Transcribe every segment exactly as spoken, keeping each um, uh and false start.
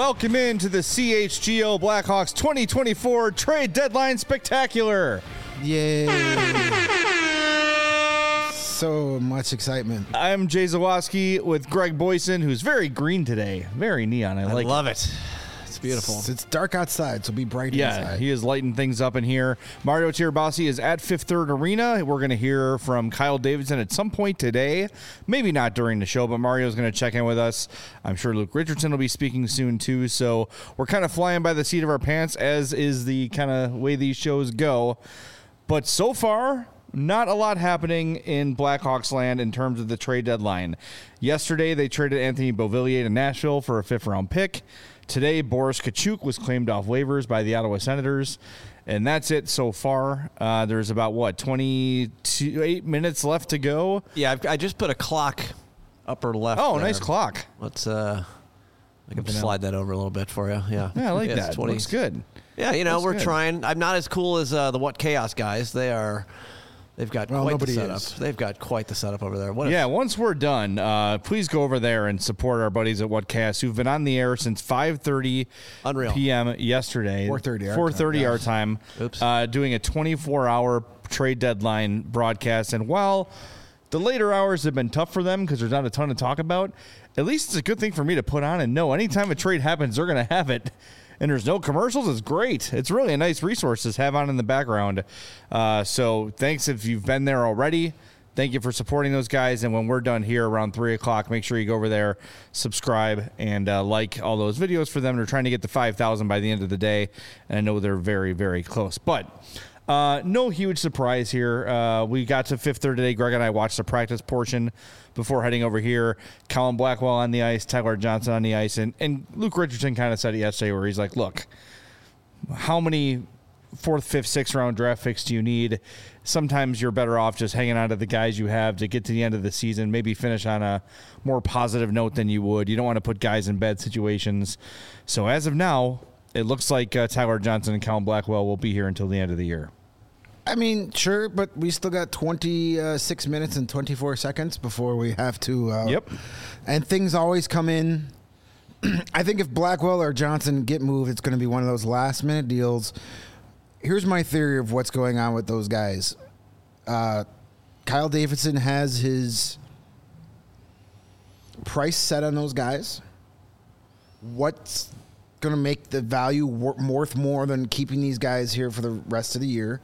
welcome into the C H G O Blackhawks twenty twenty-four Trade Deadline Spectacular. Yay. So much excitement. I'm Jay Zawoski with Greg Boyson, who's very green today. Very neon. I, I like love it. it. It's beautiful. It's, it's dark outside, so be bright Yeah, inside. he is lighting things up in here. Mario Tirabassi is at Fifth Third Arena. We're going to hear from Kyle Davidson at some point today. Maybe not during the show, but Mario's going to check in with us. I'm sure Luke Richardson will be speaking soon, too. So we're kind of flying by the seat of our pants, as is the kind of way these shows go. But so far, not a lot happening in Blackhawks land in terms of the trade deadline. Yesterday, they traded Anthony Beauvillier to Nashville for a fifth-round pick. Today, Boris Katchouk was claimed off waivers by the Ottawa Senators. And that's it so far. Uh, there's about, what, twenty-eight minutes left to go? Yeah, I've, I just put a clock upper left. Oh, there. nice clock. Let's, uh, I can slide that over a little bit for you. Yeah, Yeah, I like yeah, that. Looks good. Yeah, you know, Looks we're good. trying. I'm not as cool as uh, the What Chaos guys. They are, they've got Well, quite the nobody setup. is. They've got quite the setup over there. What Yeah, once we're done, uh, please go over there and support our buddies at Whatcast, who've been on the air since five thirty Unreal. p.m. yesterday. four thirty our four thirty time, our yes. time. Oops. Uh, doing a twenty-four hour trade deadline broadcast. And while the later hours have been tough for them because there's not a ton to talk about, at least it's a good thing for me to put on and know anytime a trade happens, they're going to have it. And there's no commercials. It's great. It's really a nice resource to have on in the background. Uh, so thanks if you've been there already. Thank you for supporting those guys. And when we're done here around three o'clock, make sure you go over there, subscribe, and uh, like all those videos for them. They're trying to get to five thousand by the end of the day. And I know they're very, very close. But uh, no huge surprise here. Uh, we got to Fifth Third today. Greg and I watched the practice portion before heading over here. Colin Blackwell on the ice, Tyler Johnson on the ice. And, and Luke Richardson kind of said it yesterday where he's like, look, how many fourth, fifth, sixth round draft picks do you need? Sometimes you're better off just hanging on to the guys you have to get to the end of the season, maybe finish on a more positive note than you would. You don't want to put guys in bad situations. So as of now, it looks like uh, Tyler Johnson and Colin Blackwell will be here until the end of the year. I mean, sure, but we still got twenty-six minutes and twenty-four seconds before we have to. Uh, Yep. And things always come in. I think if Blackwell or Johnson get moved, it's going to be one of those last-minute deals. Here's my theory of what's going on with those guys. Uh, Kyle Davidson has his price set on those guys. What's going to make the value wor- worth more than keeping these guys here for the rest of the year?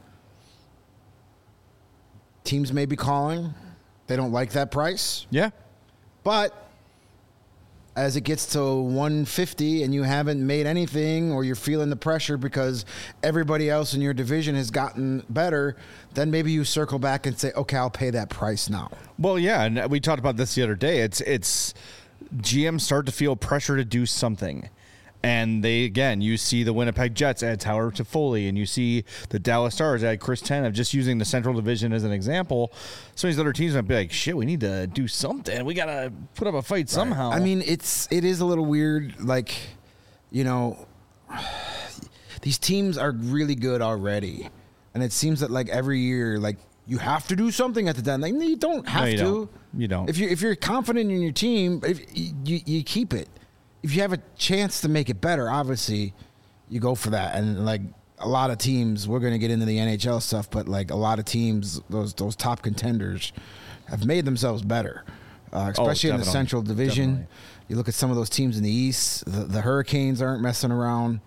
Teams may be calling. They don't like that price. Yeah. But as it gets to one fifty and you haven't made anything, or you're feeling the pressure because everybody else in your division has gotten better, then maybe you circle back and say, okay, I'll pay that price now. Well, yeah, and we talked about this the other day. It's it's G Ms start to feel pressure to do something. And they, again, you see the Winnipeg Jets add Tyler Toffoli, and you see the Dallas Stars add Chris Tanev, just using the Central Division as an example. Some of these other teams might be like, shit, we need to do something. We got to put up a fight somehow. I mean, it's it is a little weird. Like, you know, these teams are really good already. And it seems that, like, every year, like, you have to do something at the deadline. Like, you don't have No, you to. don't. You don't. If you're, if you're confident in your team, if you, you keep it. If you have a chance to make it better, obviously, you go for that. And, like, a lot of teams, we're going to get into the N H L stuff, but, like, a lot of teams, those those top contenders have made themselves better, uh, especially oh, in the Central Division. Definitely. You look at some of those teams in the East, the, the Hurricanes aren't messing around.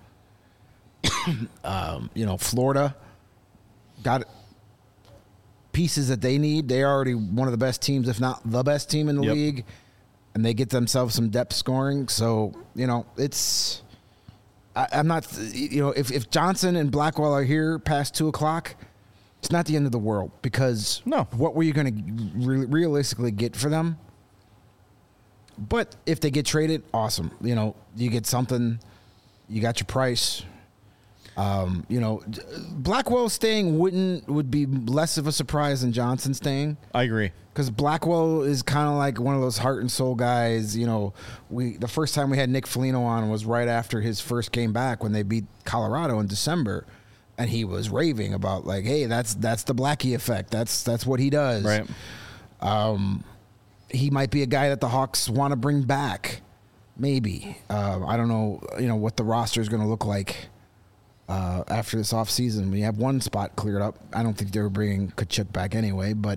um, you know, Florida got pieces that they need. They're already one of the best teams, if not the best team in the Yep. league. And they get themselves some depth scoring. So, you know, it's I, I'm not, you know, if, if Johnson and Blackwell are here past two o'clock, it's not the end of the world, because No. what were you going to re- realistically get for them? But if they get traded, awesome. You know, you get something, you got your price. Um, you know, Blackwell staying wouldn't would be less of a surprise than Johnson staying. I agree. Because Blackwell is kind of like one of those heart and soul guys. You know, we the first time we had Nick Foligno on was right after his first game back when they beat Colorado in December, and he was raving about, like, hey, that's that's the Blackie effect. That's that's what he does. Right. Um, he might be a guy that the Hawks want to bring back. maybe. Uh, I don't know. You know what the roster is going to look like uh, after this offseason. We have one spot cleared up. I don't think they were bringing Kachuk back anyway, but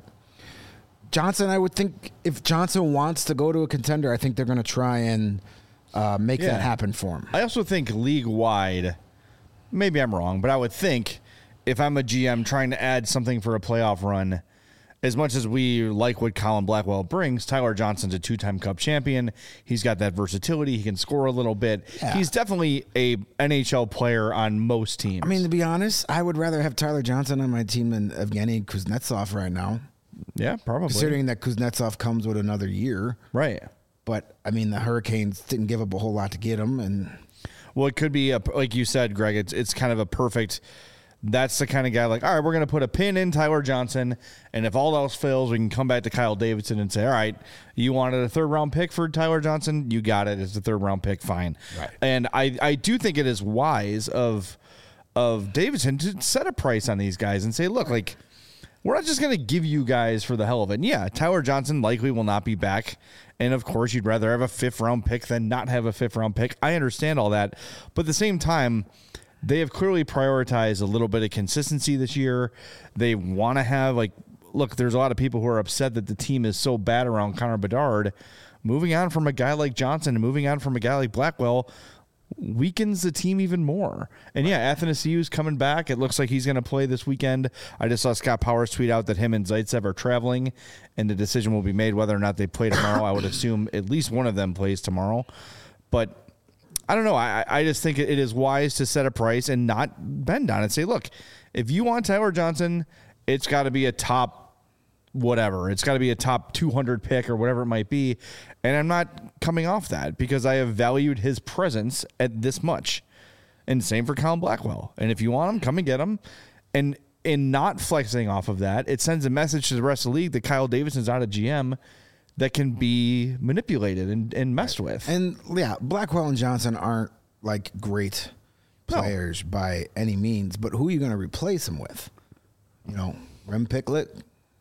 Johnson, I would think if Johnson wants to go to a contender, I think they're going to try and uh, make Yeah. that happen for him. I also think league wide, maybe I'm wrong, but I would think if I'm a G M trying to add something for a playoff run, as much as we like what Colin Blackwell brings, Tyler Johnson's a two-time Cup champion. He's got that versatility. He can score a little bit. Yeah. He's definitely a N H L player on most teams. I mean, to be honest, I would rather have Tyler Johnson on my team than Evgeny Kuznetsov right now, yeah, probably. considering that Kuznetsov comes with another year. Right. But, I mean, the Hurricanes didn't give up a whole lot to get him. And Well, it could be, a, like you said, Greg, it's, it's kind of a perfect... That's the kind of guy like, all right, we're going to put a pin in Tyler Johnson, and if all else fails, we can come back to Kyle Davidson and say, all right, you wanted a third-round pick for Tyler Johnson? You got it. It's a third-round pick. Fine. Right. And I, I do think it is wise of of Davidson to set a price on these guys and say, look, like, we're not just going to give you guys for the hell of it. And yeah, Tyler Johnson likely will not be back. And, of course, you'd rather have a fifth-round pick than not have a fifth-round pick. I understand all that. But at the same time, they have clearly prioritized a little bit of consistency this year. They want to have, like, look, there's a lot of people who are upset that the team is so bad around Connor Bedard. Moving on from a guy like Johnson and moving on from a guy like Blackwell weakens the team even more. And, yeah, Athanasiou's coming back. It looks like he's going to play this weekend. I just saw Scott Powers tweet out that him and Zaitsev are traveling, and the decision will be made whether or not they play tomorrow. I would assume at least one of them plays tomorrow. But I don't know. I, I just think it is wise to set a price and not bend on it. Say, look, if you want Tyler Johnson, it's got to be a top whatever. It's got to be a top two hundred pick or whatever it might be. And I'm not coming off that because I have valued his presence at this much. And same for Colin Blackwell. And if you want him, come and get him. And in not flexing off of that, it sends a message to the rest of the league that Kyle Davidson's not a G M that can be manipulated and, and messed with. And yeah, Blackwell and Johnson aren't like great No. players by any means, but who are you going to replace him with? You know, Rem Picklet?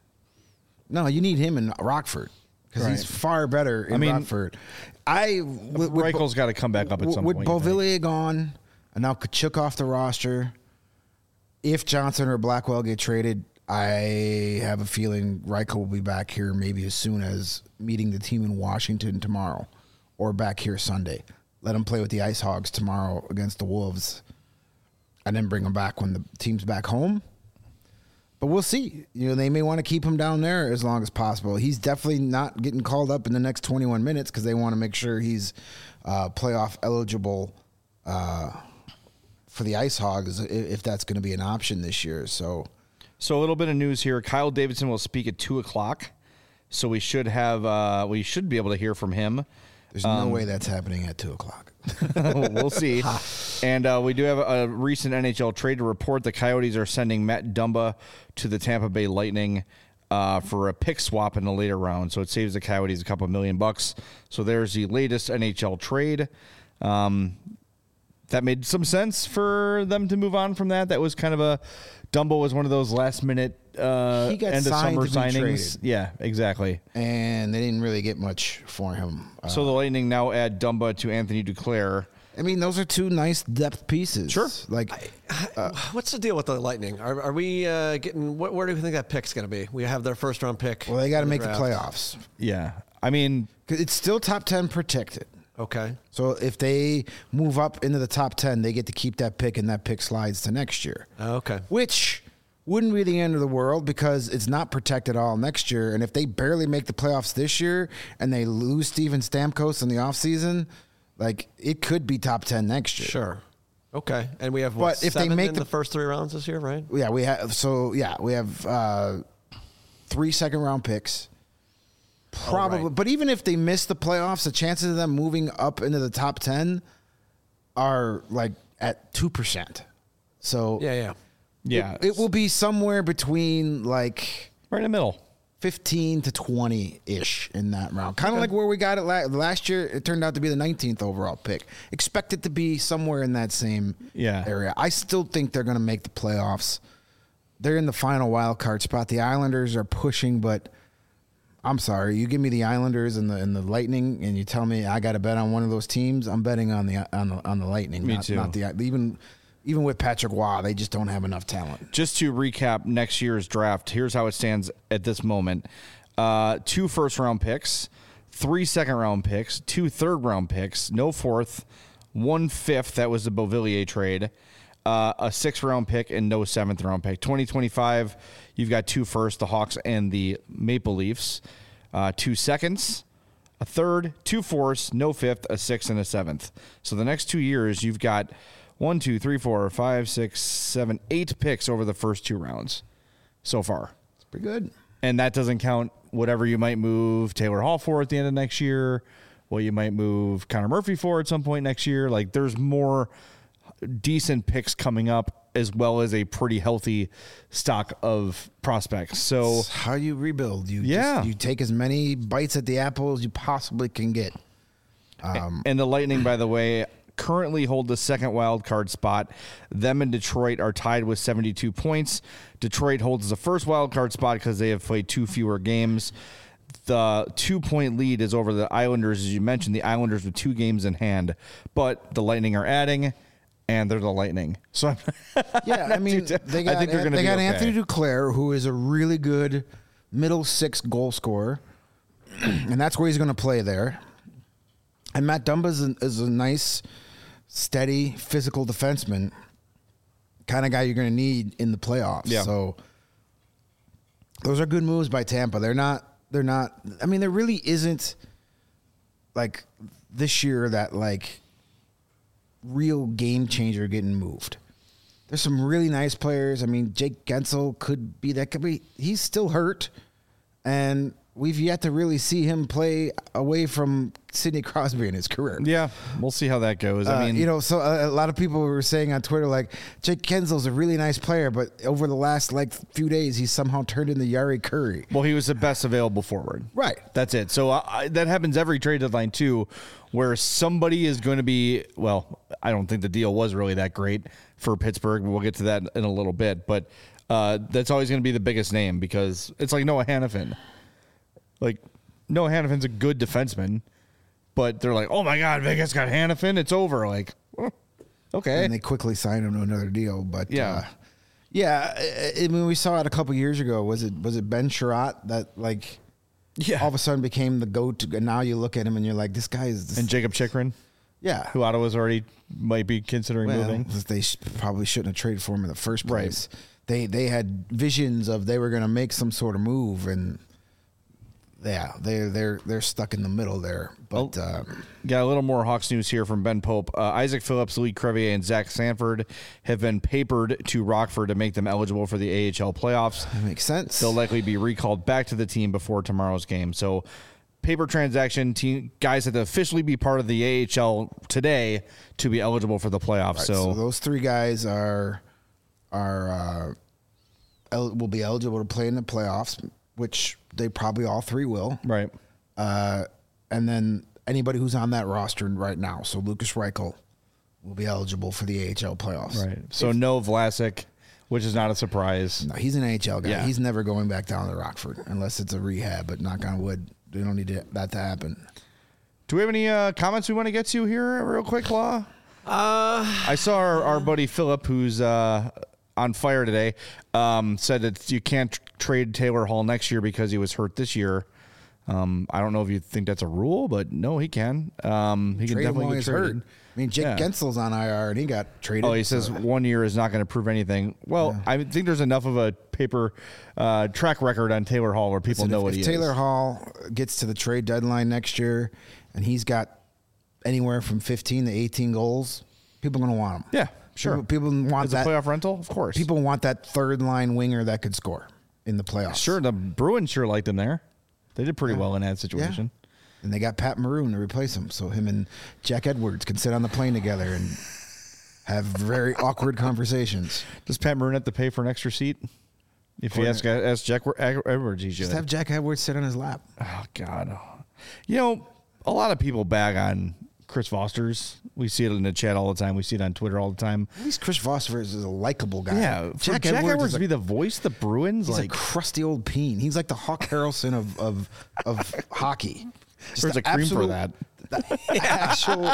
No, you need him in Rockford because he's Right. far better in I mean, Rockford. I with, with, Reichel's got to come back up at some with point. you think. Beauvillier gone and now Kachuk off the roster. If Johnson or Blackwell get traded, I have a feeling Reichel will be back here maybe as soon as meeting the team in Washington tomorrow or back here Sunday. Let him play with the Ice Hogs tomorrow against the Wolves and then bring him back when the team's back home. But we'll see. You know, they may want to keep him down there as long as possible. He's definitely not getting called up in the next twenty-one minutes because they want to make sure he's uh, playoff eligible uh, for the Ice Hogs if that's going to be an option this year. So... So a little bit of news here. Kyle Davidson will speak at two o'clock. So we should have uh, we should be able to hear from him. There's no way that's happening at two o'clock. We'll see. And uh, we do have a, a recent N H L trade to report. The Coyotes are sending Matt Dumba to the Tampa Bay Lightning uh, for a pick swap in the later round. So it saves the Coyotes a couple million bucks. So there's the latest N H L trade. Um, that made some sense for them to move on from that. That was kind of a Dumbo was one of those last minute uh, He got end of signed summer to be signings. traded. Yeah, exactly. And they didn't really get much for him. Uh, So the Lightning now add Dumba to Anthony Duclair. I mean, those are two nice depth pieces. Sure. Like, What's the deal with the Lightning? Are, are we uh, getting? What, where do we think that pick's going to be? We have their first round pick. well, they got to in make the draft. playoffs. Yeah, I mean, 'Cause it's still top ten protected. Okay. So if they move up into the top ten, they get to keep that pick, and that pick slides to next year. Okay. Which wouldn't be the end of the world because it's not protected all next year. And if they barely make the playoffs this year and they lose Steven Stamkos in the offseason, like it could be top ten next year. Sure. Okay. And we have what, But if they seven make in the- the first three rounds this year, right? Yeah, we have. So yeah, we have uh, three second round picks. Probably, Oh, right. but even if they miss the playoffs, the chances of them moving up into the top ten are like at two percent. So Yeah, yeah. yeah, it, it will be somewhere between like right in the middle. fifteen to twenty ish in that round. Kind of like where we got it la- last year. It turned out to be the nineteenth overall pick. Expect it to be somewhere in that same Yeah. area. I still think they're going to make the playoffs. They're in the final wild card spot. The Islanders are pushing, but I'm sorry. You give me the Islanders and the and the Lightning, and you tell me I got to bet on one of those teams. I'm betting on the on the on the Lightning. Me not, too. Not the even even with Patrick Waugh, they just don't have enough talent. Just to recap next year's draft, here's how it stands at this moment: uh, two first round picks, three second round picks, two third round picks, no fourth, one fifth. That was the Beauvillier trade. Uh, a sixth round pick and no seventh round pick. twenty twenty-five, you've got two first, the Hawks and the Maple Leafs. Uh, two seconds, a third, two fourths, no fifth, a sixth, and a seventh. So the next two years, you've got one, two, three, four, five, six, seven, eight picks over the first two rounds so far. It's pretty good. And that doesn't count whatever you might move Taylor Hall for at the end of next year, what you might move Connor Murphy for at some point next year. Like, there's more decent picks coming up, as well as a pretty healthy stock of prospects. So It's how you rebuild. You Yeah. just, you take as many bites at the apple as you possibly can get. and the Lightning, by the way, currently hold the second wild card spot. Them and Detroit are tied with seventy-two points. Detroit holds the first wild card spot because they have played two fewer games. The two-point lead is over the Islanders, as you mentioned. The Islanders with two games in hand, but the Lightning are adding, and they're the Lightning. So I'm Yeah, I mean, too- they got, I think they're gonna they be got okay. Anthony Duclair, who is a really good middle six goal scorer, and that's where he's going to play there. And Matt Dumba is a, is a nice, steady, physical defenseman, kind of guy you're going to need in the playoffs. Yeah. So those are good moves by Tampa. They're not. They're not. I mean, there really isn't like this year that like real game changer getting moved. There's some really nice players. I mean, Jake Gensel could be that. Could be. He's still hurt, and we've yet to really see him play away from Sidney Crosby in his career. Yeah, we'll see how that goes. I Uh, mean, you know, so a, a lot of people were saying on Twitter, like, Jake Gensel's a really nice player, but over the last like few days, he's somehow turned into Yari Curry. well, he was the best available forward. Right. That's it. So uh, I, that happens every trade deadline too, where somebody is going to be. Well, I don't think the deal was really that great for Pittsburgh. We'll get to that in a little bit, but uh, that's always going to be the biggest name because it's like Noah Hannafin. Like Noah Hannafin's a good defenseman, but they're like, oh my God, Vegas got Hannafin. It's over. Like, oh, okay. And they quickly signed him to another deal. But Yeah. uh, yeah, I, I mean, we saw it a couple years ago. Was it was it Ben Sherratt that like Yeah. all of a sudden became the go-to? And now you look at him and you're like, this guy is this, And Jacob Chikrin, yeah. who Ottawa's already might be considering Well, moving. they sh- probably shouldn't have traded for him in the first Right. place. They they had visions of they were going to make some sort of move, and yeah, they they're they're stuck in the middle there. But Oh. uh, Got a little more Hawks news here from Ben Pope. Uh, Isaac Phillips, Lee Crevier, and Zach Sanford have been papered to Rockford to make them eligible for the A H L playoffs. that makes sense. They'll likely be recalled back to the team before tomorrow's game. So, paper transaction, team guys have to officially be part of the A H L today to be eligible for the playoffs. Right, so, so those three guys are are uh, el- will be eligible to play in the playoffs, which they probably all three will. right. Uh, and then anybody who's on that roster right now, so Lucas Reichel will be eligible for the A H L playoffs. Right. So, no Vlasic, which is not a surprise. No, he's an A H L guy. Yeah. He's never going back down to Rockford unless it's a rehab. But knock on wood, they don't need to, that to happen. Do we have any uh, comments we want to get to here, real quick, Law? Uh, I saw our, our buddy Philip, who's uh, on fire today, um, said that you can't tr- trade Taylor Hall next year because he was hurt this year. Um, I don't know if you think that's a rule, but no, he can. Um, he can Trade him definitely while get he's traded. hurt. I mean, Jake Yeah. Gensel's on I R and he got traded. Oh, he says so- one year is not going to prove anything. Well, I think there's enough of a paper uh, track record on Taylor Hall where people Listen, know if, what if he Taylor is. Hall gets to the trade deadline next year and he's got anywhere from fifteen to eighteen goals, people are going to want him. Yeah, sure. People, people want As a that. playoff rental, of course. People want that third line winger that could score in the playoffs. Sure, the Bruins sure liked him there. They did pretty well in that situation. And they got Pat Maroon to replace him, so him and Jack Edwards can sit on the plane together and have very awkward conversations. Does Pat Maroon have to pay for an extra seat? If you For- ask, ask Jack Edwards, he should. Just have Jack Edwards sit on his lap. Oh God, you know, a lot of people bag on Chris Foster's. We see it in the chat all the time. We see it on Twitter all the time. At least Chris Foster is a likable guy. Yeah, for Jack, Jack, Edwards, Edwards is to a, be the voice of the Bruins, he's like a crusty old peen. He's like the Hawk Harrelson of of of hockey. Just there's the a cream absolute, for that. The actual,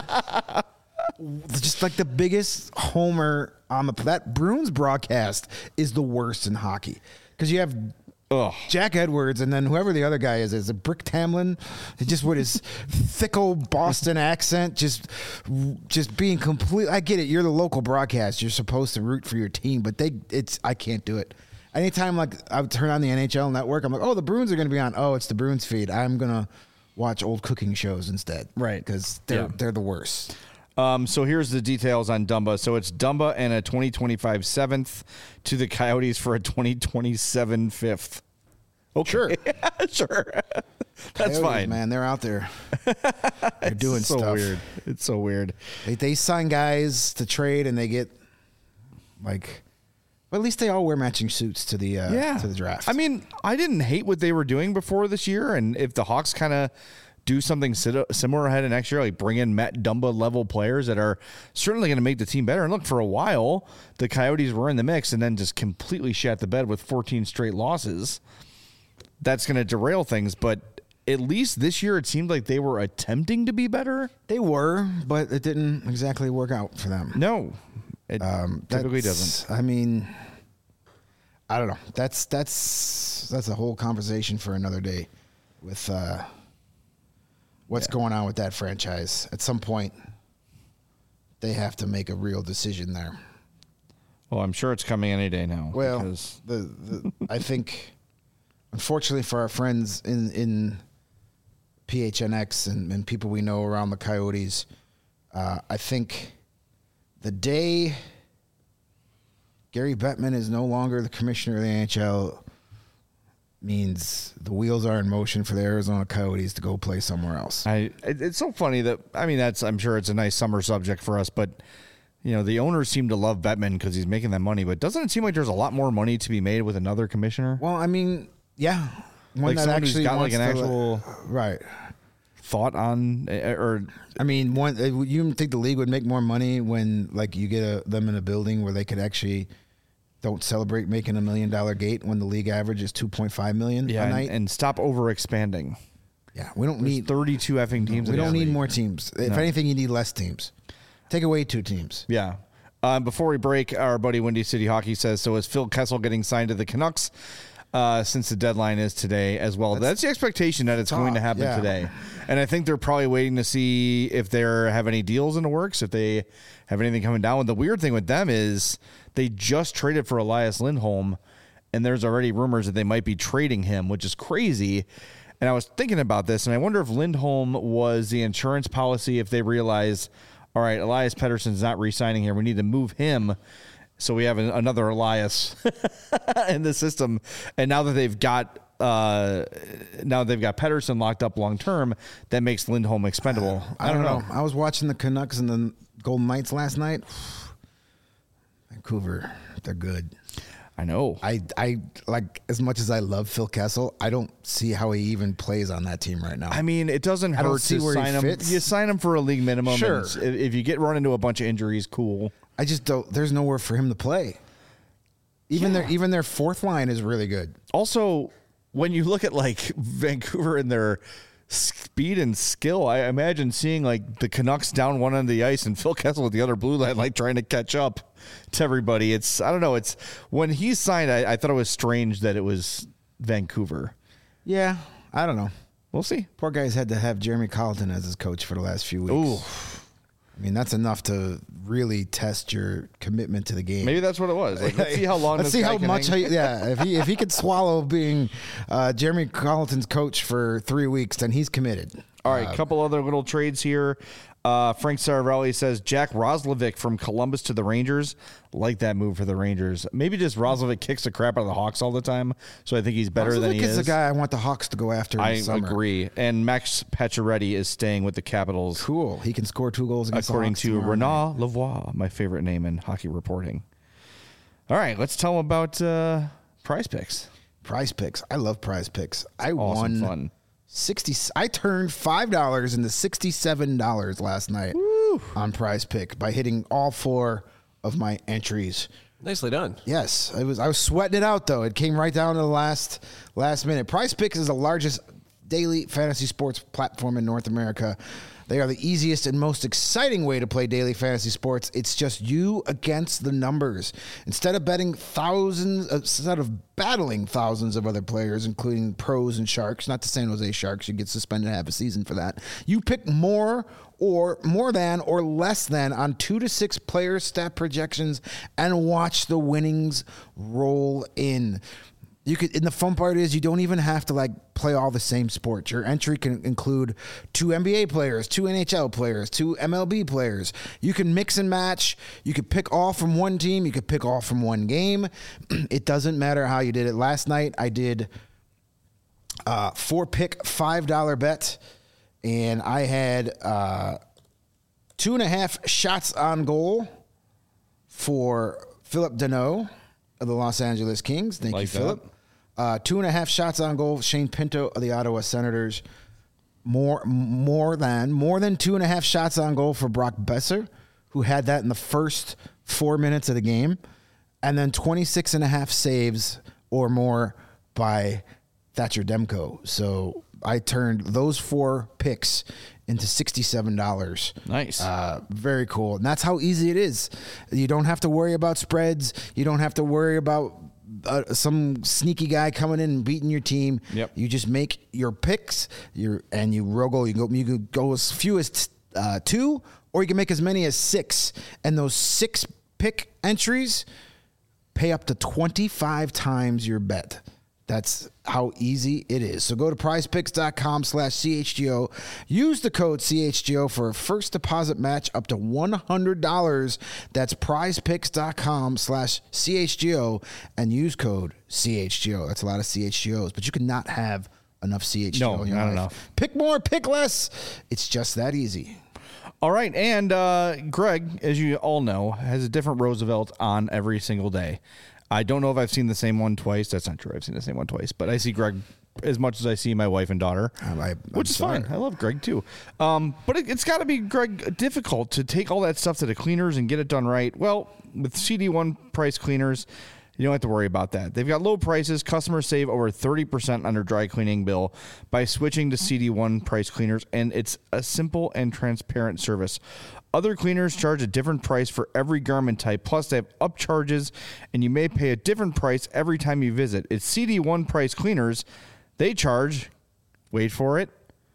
just like the biggest homer on the that Bruins broadcast is the worst in hockey because you have. Ugh. Jack Edwards and then whoever the other guy is is a Brick Tamlin, just with his thick old Boston accent, just just being complete. I get it. You're the local broadcast. You're supposed to root for your team, but they it's I can't do it. Anytime like I would turn on the N H L network, I'm like, oh, the Bruins are going to be on. Oh, it's the Bruins feed. I'm gonna watch old cooking shows instead, right? Because they're Yeah. they're the worst. Um, so here's the details on Dumba. So it's Dumba and a twenty twenty-five seventh to the Coyotes for a twenty twenty-seven fifth. Okay. Sure. sure. That's Coyotes, fine. man. They're out there. They're doing It's so stuff. weird. It's so weird. They they sign guys to trade and they get like, well, at least they all wear matching suits to the uh, Yeah. to the draft. I mean, I didn't hate what they were doing before this year, and if the Hawks kind of do something similar ahead of next year, like bring in Matt Dumba level players that are certainly going to make the team better. And look, for a while, the Coyotes were in the mix and then just completely shat the bed with fourteen straight losses. That's going to derail things. But at least this year, it seemed like they were attempting to be better. they were, but it didn't exactly work out for them. No, it Um, typically that's- doesn't. I mean, I don't know. That's that's that's a whole conversation for another day. With uh, what's Yeah. going on with that franchise, at some point, they have to make a real decision there. Well, I'm sure it's coming any day now. Well, because the, the I think, unfortunately for our friends in in P H N X and, and people we know around the Coyotes, uh, I think the day Gary Bettman is no longer the commissioner of the N H L means the wheels are in motion for the Arizona Coyotes to go play somewhere else. I, it, it's so funny that, I mean, that's, I'm sure it's a nice summer subject for us, but, you know, the owners seem to love Bettman because he's making that money, but doesn't it seem like there's a lot more money to be made with another commissioner? Well, I mean, yeah. One Like someone who's got, like, wants an to, actual- right. Thought on, or I mean, one uh, you think the league would make more money when like you get a, them in a building where they could actually don't celebrate making a million dollar gate when the league average is two point five million yeah, a and, night. and stop over expanding. Yeah, we don't There's need thirty-two effing teams. we in don't this need league. more teams. If No. anything, you need less teams. Take away two teams. Yeah. Um, before we break, our buddy Windy City Hockey says, so is Phil Kessel getting signed to the Canucks uh, since the deadline is today as well? That's, That's the expectation that it's going to top, happen yeah. today. And I think they're probably waiting to see if they have any deals in the works, if they have anything coming down. The weird thing with them is they just traded for Elias Lindholm, and there's already rumors that they might be trading him, which is crazy. And I was thinking about this, and I wonder if Lindholm was the insurance policy if they realize, all right, Elias Pettersson's not re-signing here. We need to move him so we have an, another Elias in the system. And now that they've got uh, now they've got Pettersson locked up long term, that makes Lindholm expendable. I, don't know. I was watching the Canucks and the Golden Knights last night. Vancouver, they're good. I know. I, I like as much as I love Phil Kessel, I don't see how he even plays on that team right now. I mean, it doesn't I don't hurt see to where he sign him. fits. You sign him for a league minimum. Sure. and if if you get run into a bunch of injuries, cool. I just don't. There's nowhere for him to play. Even Yeah. their even their fourth line is really good. Also, when you look at like Vancouver and their speed and skill, I imagine seeing like the Canucks down one end of the ice and Phil Kessel with the other blue line, like trying to catch up to everybody. It's, I don't know. It's when he signed, I, I thought it was strange that it was Vancouver. Yeah, I don't know. We'll see. Poor guy's had to have Jeremy Colleton as his coach for the last few weeks. Ooh, I mean, that's enough to really test your commitment to the game. maybe that's what it was. Like, let's see how long. Let's this see guy how can much. hang. He, yeah, if he if he could swallow being uh, Jeremy Colleton's coach for three weeks, then he's committed. All right, Uh, a couple other little trades here. Uh, Frank Saravelli says Jack Roslovic from Columbus to the Rangers. Like that move for the Rangers. Maybe just Roslovic kicks the crap out of the Hawks all the time, so I think he's better than he Roslovic is. the guy I want the Hawks to go after. In I the summer. agree. And Max Pacioretty is staying with the Capitals, Cool. He can score two goals against the according Hawks to tomorrow night. Renat Lavoie, my favorite name in hockey reporting. All right, let's tell them about uh, Prize Picks. Prize Picks. I love Prize Picks. I Awesome won fun. sixty. I turned five dollars into sixty-seven dollars last night Woo. on Prize Pick by hitting all four of my entries. Nicely done. Yes, I was. I was sweating it out though. It came right down to the last last minute. Prize Picks is the largest daily fantasy sports platform in North America. They are the easiest and most exciting way to play daily fantasy sports. It's just you against the numbers. Instead of betting thousands, instead of battling thousands of other players, including pros and sharks, not the San Jose Sharks, you get suspended half a season for that. You pick more or more than or less than on two to six player stat projections and watch the winnings roll in. You could, and the fun part is you don't even have to like play all the same sports. Your entry can include two N B A players, two N H L players, two M L B players. You can mix and match. You could pick all from one team. You could pick all from one game. It doesn't matter how you did it. Last night I did uh, four pick five dollar bet, and I had uh, two and a half shots on goal for Philip Deneau of the Los Angeles Kings. Thank like you, Philip. Uh, two and a half shots on goal. Shane Pinto of the Ottawa Senators. More, more than, more than two and a half shots on goal for Brock Besser, who had that in the first four minutes of the game. And then twenty-six and a half saves or more by Thatcher Demko. So I turned those four picks into sixty-seven dollars. Nice. Uh, very cool. And that's how easy it is. You don't have to worry about spreads. You don't have to worry about uh, some sneaky guy coming in and beating your team. Yep. You just make your picks your, and you roll. You go, you could go as few as uh, two, or you can make as many as six. And those six pick entries pay up to twenty-five times your bet. That's how easy it is. So go to prizepicks.com slash CHGO. Use the code C H G O for a first deposit match up to one hundred dollars. That's prizepicks.com slash CHGO and use code C H G O. That's a lot of C H G Os, but you cannot have enough C H G O No, in your not life. enough. Pick more, pick less. It's just that easy. All right. And uh, Greg, as you all know, has a different Roosevelt on every single day. I don't know if I've seen the same one twice. That's not true. I've seen the same one twice, but I see Greg as much as I see my wife and daughter, I, I, which is sorry. fine. I love Greg too. Um, but it, it's got to be, Greg, difficult to take all that stuff to the cleaners and get it done right. Well, with C D one price cleaners, you don't have to worry about that. They've got low prices. Customers save over thirty percent on their dry cleaning bill by switching to C D one price cleaners, and it's a simple and transparent service. Other cleaners charge a different price for every garment type, plus they have upcharges, and you may pay a different price every time you visit. It's C D one price cleaners. They charge, wait for it,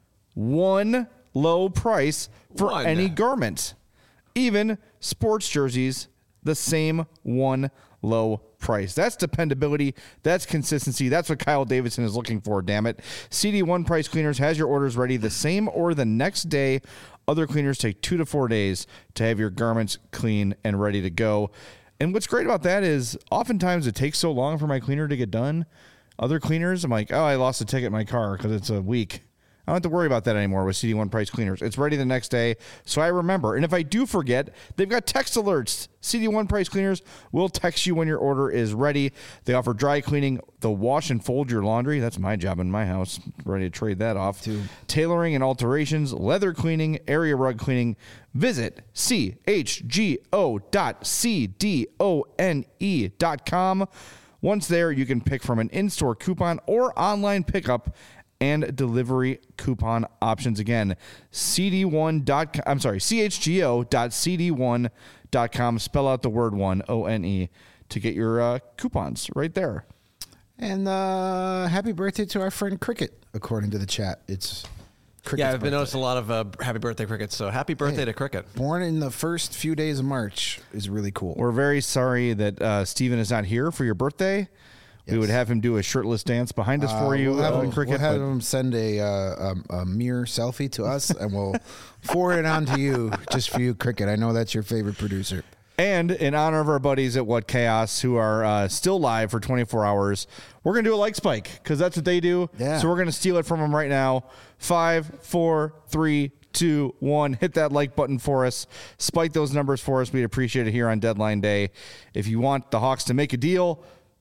one low price for One. any garment. Even sports jerseys, the same one low price. That's dependability. That's consistency. That's what Kyle Davidson is looking for, damn it. C D one Price Cleaners has your orders ready the same or the next day. Other cleaners take two to four days to have your garments clean and ready to go. And what's great about that is oftentimes it takes so long for my cleaner to get done. Other cleaners, I'm like, oh, I lost a ticket in my car because it's a week. I don't have to worry about that anymore with C D one Price Cleaners. It's ready the next day, so I remember. And if I do forget, they've got text alerts. C D one Price Cleaners will text you when your order is ready. They offer dry cleaning. They'll wash and fold your laundry. That's my job in my house. Ready to trade that off. Too. Tailoring and alterations, leather cleaning, area rug cleaning. Visit C H G O dot C D O N E dot com. Once there, you can pick from an in-store coupon or online pickup and delivery coupon options. Again, C D one dot com, I'm sorry, C H G O dot C D one dot com. Spell out the word one, O N E, to get your uh, coupons right there. And uh, happy birthday to our friend Cricket, according to the chat. It's Cricket's Yeah, I've been birthday. noticing a lot of uh, happy birthday Cricket, so happy birthday Hey, to Cricket. Born in the first few days of March is really cool. We're very sorry that uh, Steven is not here for your birthday. We Yes. would have him do a shirtless dance behind us for Uh, you, we'll have, uh, him, Cricket. we'll have but- him send a, uh, a, a mirror selfie to us, and we'll forward it on to you, just for you, Cricket. I know that's your favorite producer. And in honor of our buddies at What Chaos, who are uh, still live for twenty-four hours, we're going to do a like spike because that's what they do. Yeah. So we're going to steal it from them right now. Five, four, three, two, one. Hit that like button for us. Spike those numbers for us. We'd appreciate it here on deadline day. If you want the Hawks to make a deal,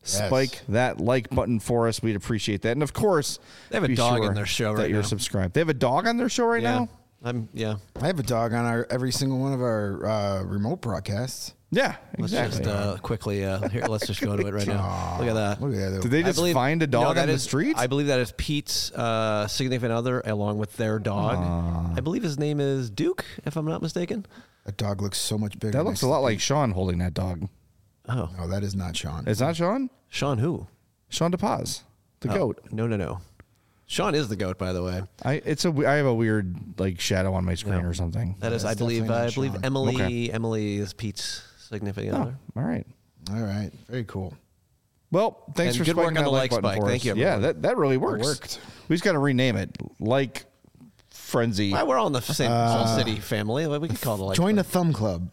spike that like button for us. We'd appreciate that. And of course, They have a be dog sure on their show that right you're now. subscribed. They have a dog on their show right yeah. now? I'm yeah. I have a dog on our every single one of our uh, remote broadcasts. Yeah, Let's exactly. just uh, quickly uh, here. Let's just go to it right now. Look at that. Look at that. Did they I just believe- find a no, dog that on the is- street? I believe that is Pete's uh, significant other, along with their dog. I believe his name is Duke, if I'm not mistaken. That dog looks so much bigger. that next looks a to lot Pete. like Sean holding that dog. Oh, No, that is not Sean. It's not Sean? Sean who? Sean DePaz, the Oh, goat. No, no, no. Sean is the goat, by the way. I it's a I have a weird like shadow on my screen Yeah. or something. That is, That's I believe, definitely not I believe Sean. Emily. Okay. Emily is Pete's significant Oh, other. all right. All right, very cool. Well, thanks And for good work spiking on that the like like button spike. for Thank us. you, Yeah, everyone. that that really works. worked. We just got to rename it. Like Frenzy. Well, we're all in the same Hall City family. We can call it the like. Join the spike. Thumb Club.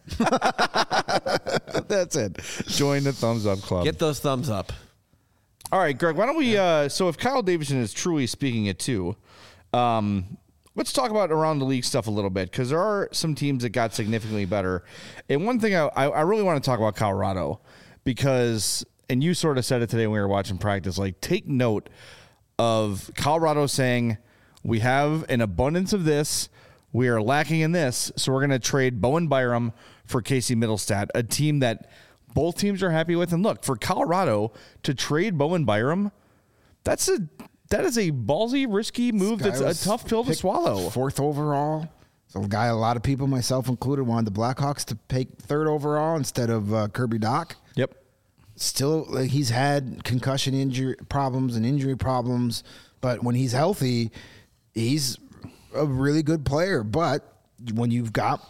That's it. Join the Thumbs Up Club. Get those thumbs up. All right, Greg, why don't we uh so if Kyle Davidson is truly speaking it too, um let's talk about around the league stuff a little bit, because there are some teams that got significantly better. And one thing I, I I really want to talk about Colorado, because, and you sort of said it today when we were watching practice, like take note of Colorado saying, we have an abundance of this, we are lacking in this, so we're going to trade Bowen Byram for Casey Middlestat, a team that both teams are happy with. And look, for Colorado to trade Bowen Byram, that's a that is a ballsy, risky move. Guy That's a was tough pill to picked swallow. Fourth overall. So a guy a lot of people, myself included, wanted the Blackhawks to pick third overall instead of uh, Kirby Doc. Yep. Still, like, he's had concussion injury problems and injury problems, but when he's healthy, he's a really good player. But when you've got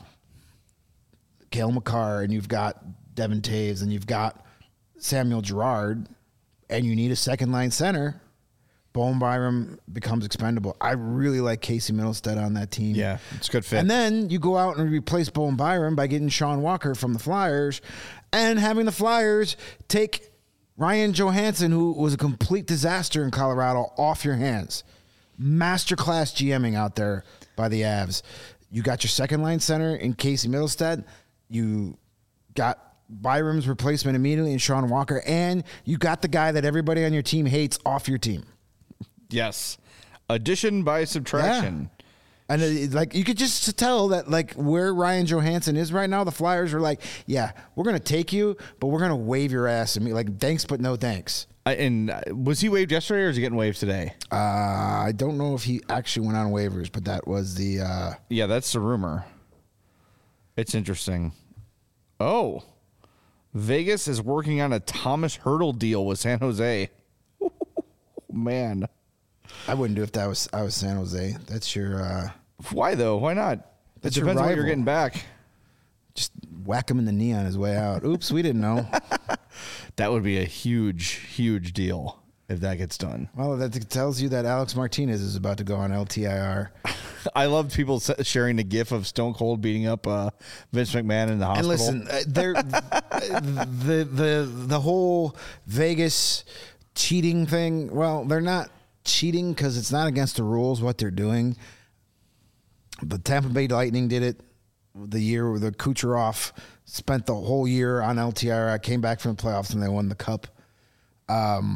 Cale Makar and you've got Devin Taves and you've got Samuel Girard and you need a second line center, Bowen Byram becomes expendable. I really like Casey Middlestat on that team. Yeah, it's a good fit. And then you go out and replace Bowen Byram by getting Sean Walker from the Flyers and having the Flyers take Ryan Johansson, who was a complete disaster in Colorado, off your hands. Masterclass GMing out there by the Avs. You got your second line center in Casey Middlestat. You got Byram's replacement immediately in Sean Walker. And you got the guy that everybody on your team hates off your team. Yes. Addition by subtraction. And it, like you could just tell that like where Ryan Johansson is right now, the Flyers are like, yeah, we're gonna take you, but we're gonna wave your ass and be like, thanks, but no thanks. I, and uh, was he waived yesterday or is he getting waived today? Uh, I don't know if he actually went on waivers, but that was the. Uh, Yeah, that's the rumor. It's interesting. Oh, Vegas is working on a Thomas Hurdle deal with San Jose. Man, I wouldn't do if that was I was San Jose. That's your. Uh, why though? Why not? It That's your depends on what you're rival. getting back. just whack him in the knee on his way out. Oops, we didn't know. That would be a huge, huge deal if that gets done. Well, that tells you that Alex Martinez is about to go on L T I R. I loved people s- sharing the gif of Stone Cold beating up uh, Vince McMahon in the And hospital. listen, uh, there, the the the whole Vegas cheating thing. Well, they're not cheating because it's not against the rules what they're doing. The Tampa Bay Lightning did it the year where the Kucherov spent the whole year on L T I R. Came back from the playoffs and they won the cup. Um,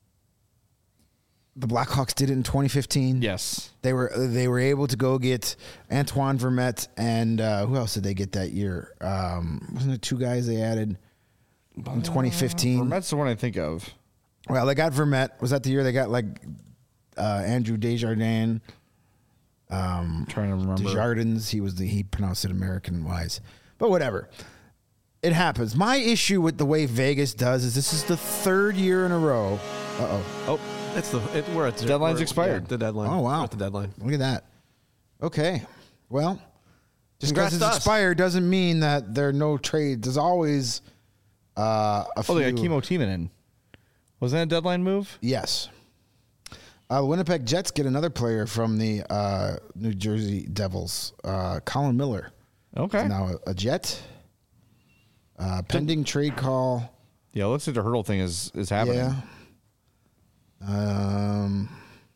the Blackhawks did it in twenty fifteen. Yes. They were they were able to go get Antoine Vermette and uh, who else did they get that year? Um, wasn't it two guys they added in twenty fifteen? Vermette's the one I think of. Well, they got Vermette. Was that the year they got like uh, Andrew Desjardins? I'm trying to remember. Desjardins. He was the he pronounced it American wise, but whatever. It happens. My issue with the way Vegas does is this is the third year in a row. Uh oh. Oh, It's the it, we're at the Deadline's we're- expired. yeah, the deadline. Oh wow. We're at the deadline. Look at that. Okay. Well, just Congrats because it's to us. expired doesn't mean that there are no trades. There's always uh, a few. oh, they got Chemo Timonen. Was that a deadline move? Yes. Uh, the Winnipeg Jets get another player from the uh, New Jersey Devils, uh, Colin Miller. Okay. He's now a, a Jet. Uh, pending trade call. Yeah, it looks like the hurdle thing is, is happening. Yeah. Um.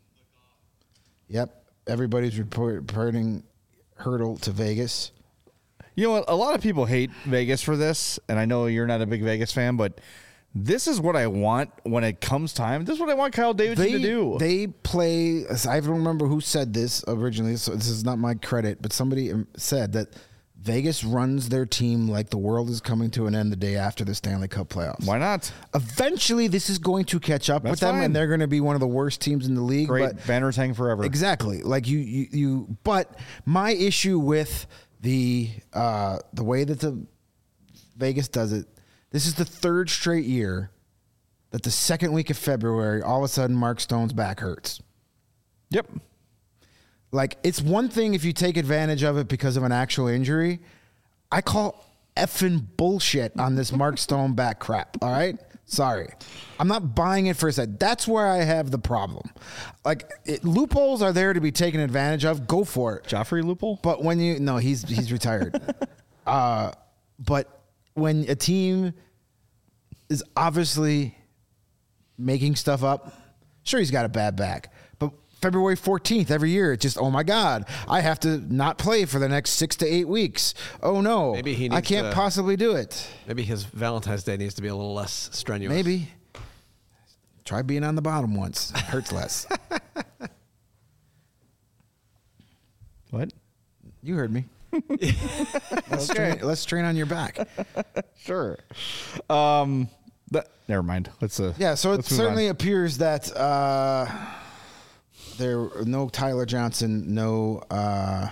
Yep. Everybody's report, reporting hurdle to Vegas. You know what? A lot of people hate Vegas for this, and I know you're not a big Vegas fan, but this is what I want when it comes time. This is what I want Kyle Davidson They, to do. they play, I don't remember who said this originally, so this is not my credit, but somebody said that Vegas runs their team like the world is coming to an end the day after the Stanley Cup playoffs. Why not? Eventually, this is going to catch up That's with them, fine. and they're going to be one of the worst teams in the league. Great. But Banners hang forever. exactly, like you, you, you. But my issue with the uh, the way that the Vegas does it, this is the third straight year that the second week of February, all of a sudden, Mark Stone's back hurts. Yep. Like, it's one thing if you take advantage of it because of an actual injury. I call effing bullshit on this Mark Stone back crap, all right? Sorry. I'm not buying it for a second. That's where I have the problem. Like, it, loopholes are there to be taken advantage of. Go for it. Joffrey Loophole? But when you... No, he's he's retired. uh, but when a team is obviously making stuff up, sure, he's got a bad back. But February fourteenth every year, it's just, oh my God, I have to not play for the next six to eight weeks. Oh no, Maybe he I needs can't to- possibly do it. Maybe his Valentine's Day needs to be a little less strenuous. Maybe. Try being on the bottom once. It hurts less. What? You heard me. let's, train, let's train on your back. Sure. Um, that, never mind. Let's uh. Yeah, so it let's move certainly on. appears that uh, there no Tyler Johnson, no uh,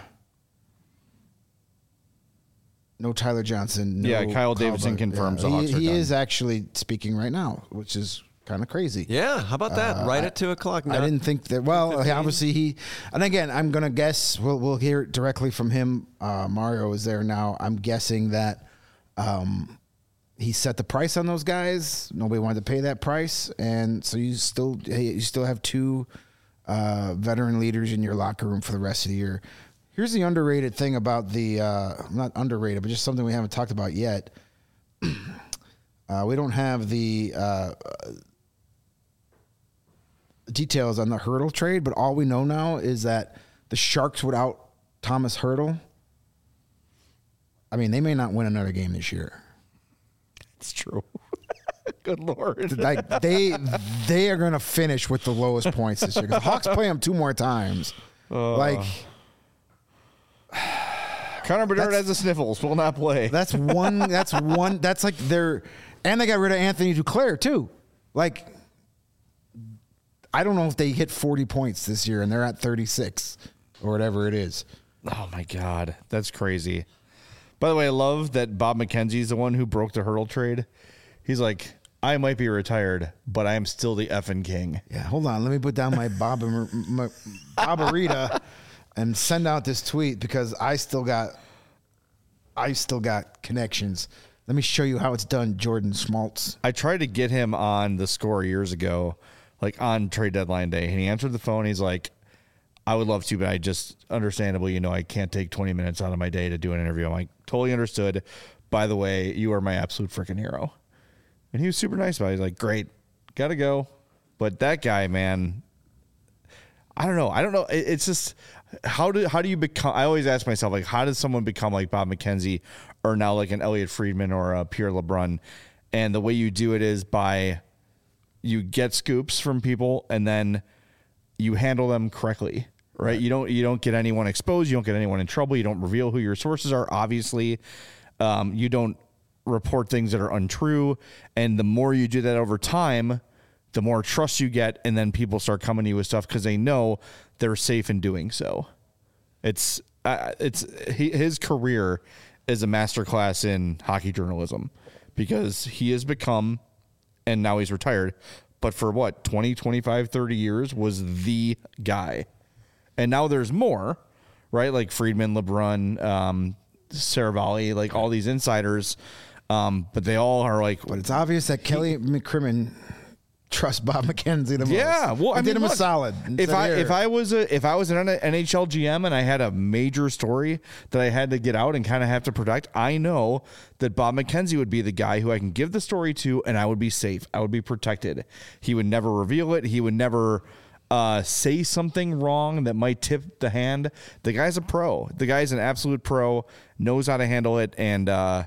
no Tyler Johnson. No Yeah, Kyle Davidson Bud- confirms the he, Hawks are he done. is actually speaking right now, which is kind of crazy. Yeah, how about that? right at two o'clock. I didn't think that. Well, obviously he, and again, I'm gonna guess. We'll we'll hear it directly from him. Uh, Mario is there now. I'm guessing that um, he set the price on those guys. Nobody wanted to pay that price, and so you still you still have two uh, veteran leaders in your locker room for the rest of the year. Here's the underrated thing about the uh, not underrated, but just something we haven't talked about yet. uh, we don't have the. Uh, details on the Hurdle trade, but all we know now is that the Sharks without Thomas Hurdle, I mean, they may not win another game this year. It's true. Good Lord. Like they they are going to finish with the lowest points this year. 'Cause the Hawks play them two more times. Uh, like Connor Bedard has the sniffles. Will not play. that's one. That's one. That's like they're and they got rid of Anthony Duclair too. Like I don't know if they hit forty points this year and they're at thirty-six or whatever it is. Oh my God, that's crazy. By the way, I love that Bob McKenzie's the one who broke the Hurdle trade. He's like, I might be retired, but I am still the effing king. Yeah, hold on. Let me put down my Bob my Bobarita and send out this tweet because I still got I still got connections. Let me show you how it's done, Jordan Schmaltz. I tried to get him on the Score years ago, like on trade deadline day, and he answered the phone. He's like, I would love to, but I just, understandably, you know, I can't take twenty minutes out of my day to do an interview. I'm like, totally understood. By the way, you are my absolute freaking hero. And he was super nice about it. He's like, great, gotta go. But that guy, man, I don't know. I don't know. It, it's just, how do how do you become, I always ask myself, like, how does someone become like Bob McKenzie or now like an Elliot Friedman or a Pierre LeBrun? And the way you do it is by, you get scoops from people and then you handle them correctly, right? right? You don't you don't get anyone exposed. You don't get anyone in trouble. You don't reveal who your sources are. Obviously, um, you don't report things that are untrue. And the more you do that over time, the more trust you get, and then people start coming to you with stuff because they know they're safe in doing so. It's uh, it's he, his career is a masterclass in hockey journalism because he has become. And now he's retired. But for what, twenty, twenty-five, thirty years was the guy. And now there's more, right? Like Friedman, LeBrun, um, Saravalli, like all these insiders. Um, but they all are like. But it's obvious that Kelly McCrimmon trusts Bob McKenzie the most. Yeah, well, I I did mean, him look, a solid. and If said, I "Here." if I was a if I was an N H L G M and I had a major story that I had to get out and kind of have to protect, I know that Bob McKenzie would be the guy who I can give the story to, and I would be safe. I would be protected. He would never reveal it. He would never uh, say something wrong that might tip the hand. The guy's a pro. The guy's an absolute pro. Knows how to handle it, and uh,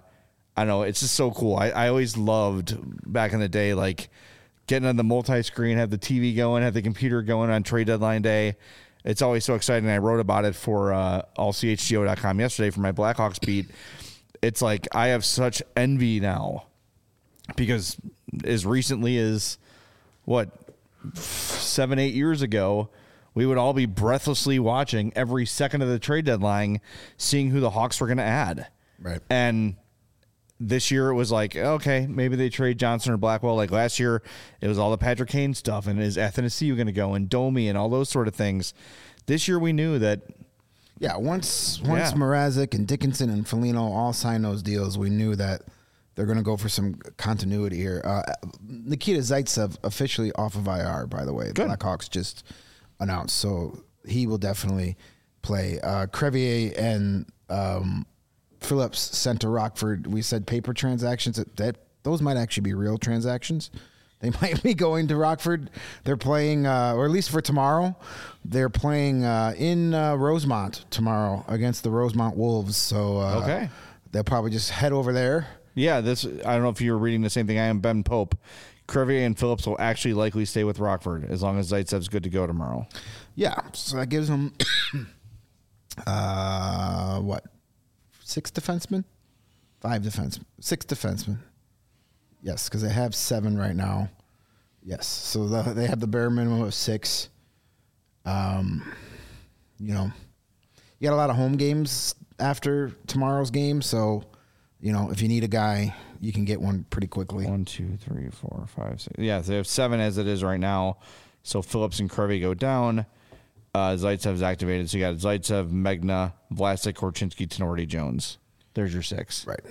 I don't know. It's just so cool. I, I always loved back in the day, like getting on the multi-screen, have the T V going, have the computer going on trade deadline day. It's always so exciting. I wrote about it for uh, all C H G O dot com yesterday for my Blackhawks beat. It's like I have such envy now because as recently as, what, seven, eight years ago, we would all be breathlessly watching every second of the trade deadline, seeing who the Hawks were going to add. Right. And this year it was like, okay, maybe they trade Johnson or Blackwell. Like last year, it was all the Patrick Kane stuff, and is Athanasiou going to go, and Domi, and all those sort of things. This year we knew that. Yeah, once once Yeah. Mrazek and Dickinson and Foligno all signed those deals, we knew that they're going to go for some continuity here. Uh, Nikita Zaitsev officially off of I R, by the way. The Good. Blackhawks just announced, so he will definitely play. Uh, Crevier and um, Phillips sent to Rockford. We said paper transactions. That, that those might actually be real transactions. They might be going to Rockford. They're playing, uh, or at least for tomorrow, they're playing uh, in uh, Rosemont tomorrow against the Rosemont Wolves. So uh, Okay. they'll probably just head over there. Yeah, this. I don't know if you were reading the same thing I am. Ben Pope, Crevier, and Phillips will actually likely stay with Rockford as long as Zaitsev's good to go tomorrow. Yeah, so that gives them uh, what six defensemen, five defensemen, six defensemen. Yes, because they have seven right now. Yes, so the, they have the bare minimum of six. Um, you know, you got a lot of home games after tomorrow's game, so you know if you need a guy, you can get one pretty quickly. One, two, three, four, five, six. Yeah, they have seven as it is right now. So Phillips and Crevier go down. Uh, Zaitsev's activated. So you got Zaitsev, Megna, Vlasic, Korchinski, Tenorti, Jones. There's your six. Right.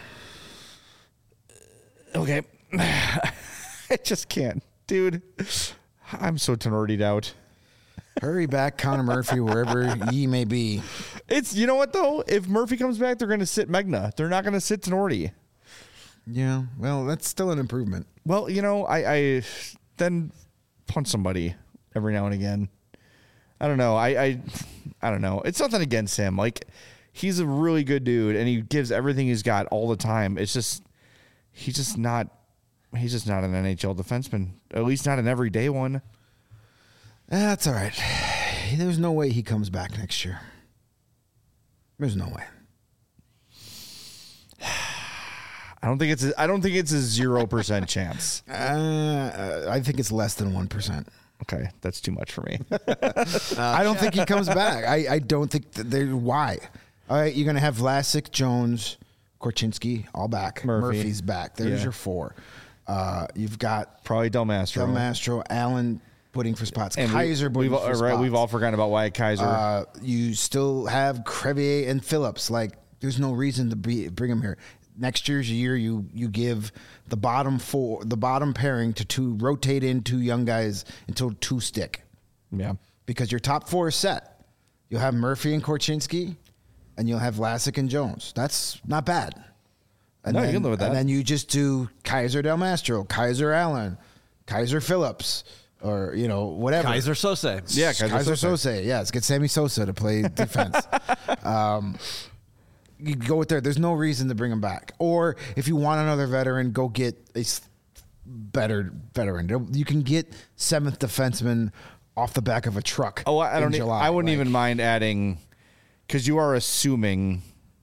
Okay. I just can't. Dude, I'm so Tenorti'd out. Hurry back, Connor Murphy, wherever ye may be. It's, you know what, though? If Murphy comes back, they're going to sit Megna. They're not going to sit Tenorti. Yeah, well, that's still an improvement. Well, you know, I, I then punch somebody every now and again. I don't know. I, I I don't know. It's nothing against him. Like, he's a really good dude, and he gives everything he's got all the time. It's just, he's just not, he's just not an N H L defenseman. At least not an everyday one. That's all right. There's no way he comes back next year. There's no way. I don't think it's. A, I don't think it's a zero percent chance. Uh, I think it's less than one percent. Okay, that's too much for me. I don't think he comes back. I, I don't think that they. Why? All right, you're gonna have Vlasic, Jones, Korchinski all back. Murphy. Murphy's back. There's Yeah. your four. Uh, you've got Probably Del Mastro. Del Mastro, Allen putting for spots, And we- Kaiser putting we've, for all- spots. right, we've all forgotten about Wyatt Kaiser. Uh, you still have Crevier and Phillips. Like, there's no reason to be, bring them here. Next year's year, you you give the bottom four, the bottom pairing to two, rotate in two young guys until two stick, yeah. because your top four is set. You'll have Murphy and Korchinski, and you'll have Vlasic and Jones. That's not bad. And No, you then, can live with that. And then you just do Kaiser Del Mastro, Kaiser Allen, Kaiser Phillips, or you know whatever. Kaiser Sose. Yeah, Kaiser, Kaiser Kaiser Sosa. Sosa. Yes, get Sammy Sosa to play defense. um, you go with there. There's no reason to bring him back. Or if you want another veteran, go get a s- better veteran. You can get seventh defenseman off the back of a truck. Oh, I I in don't. e- July. I wouldn't Like, even mind adding, because you are assuming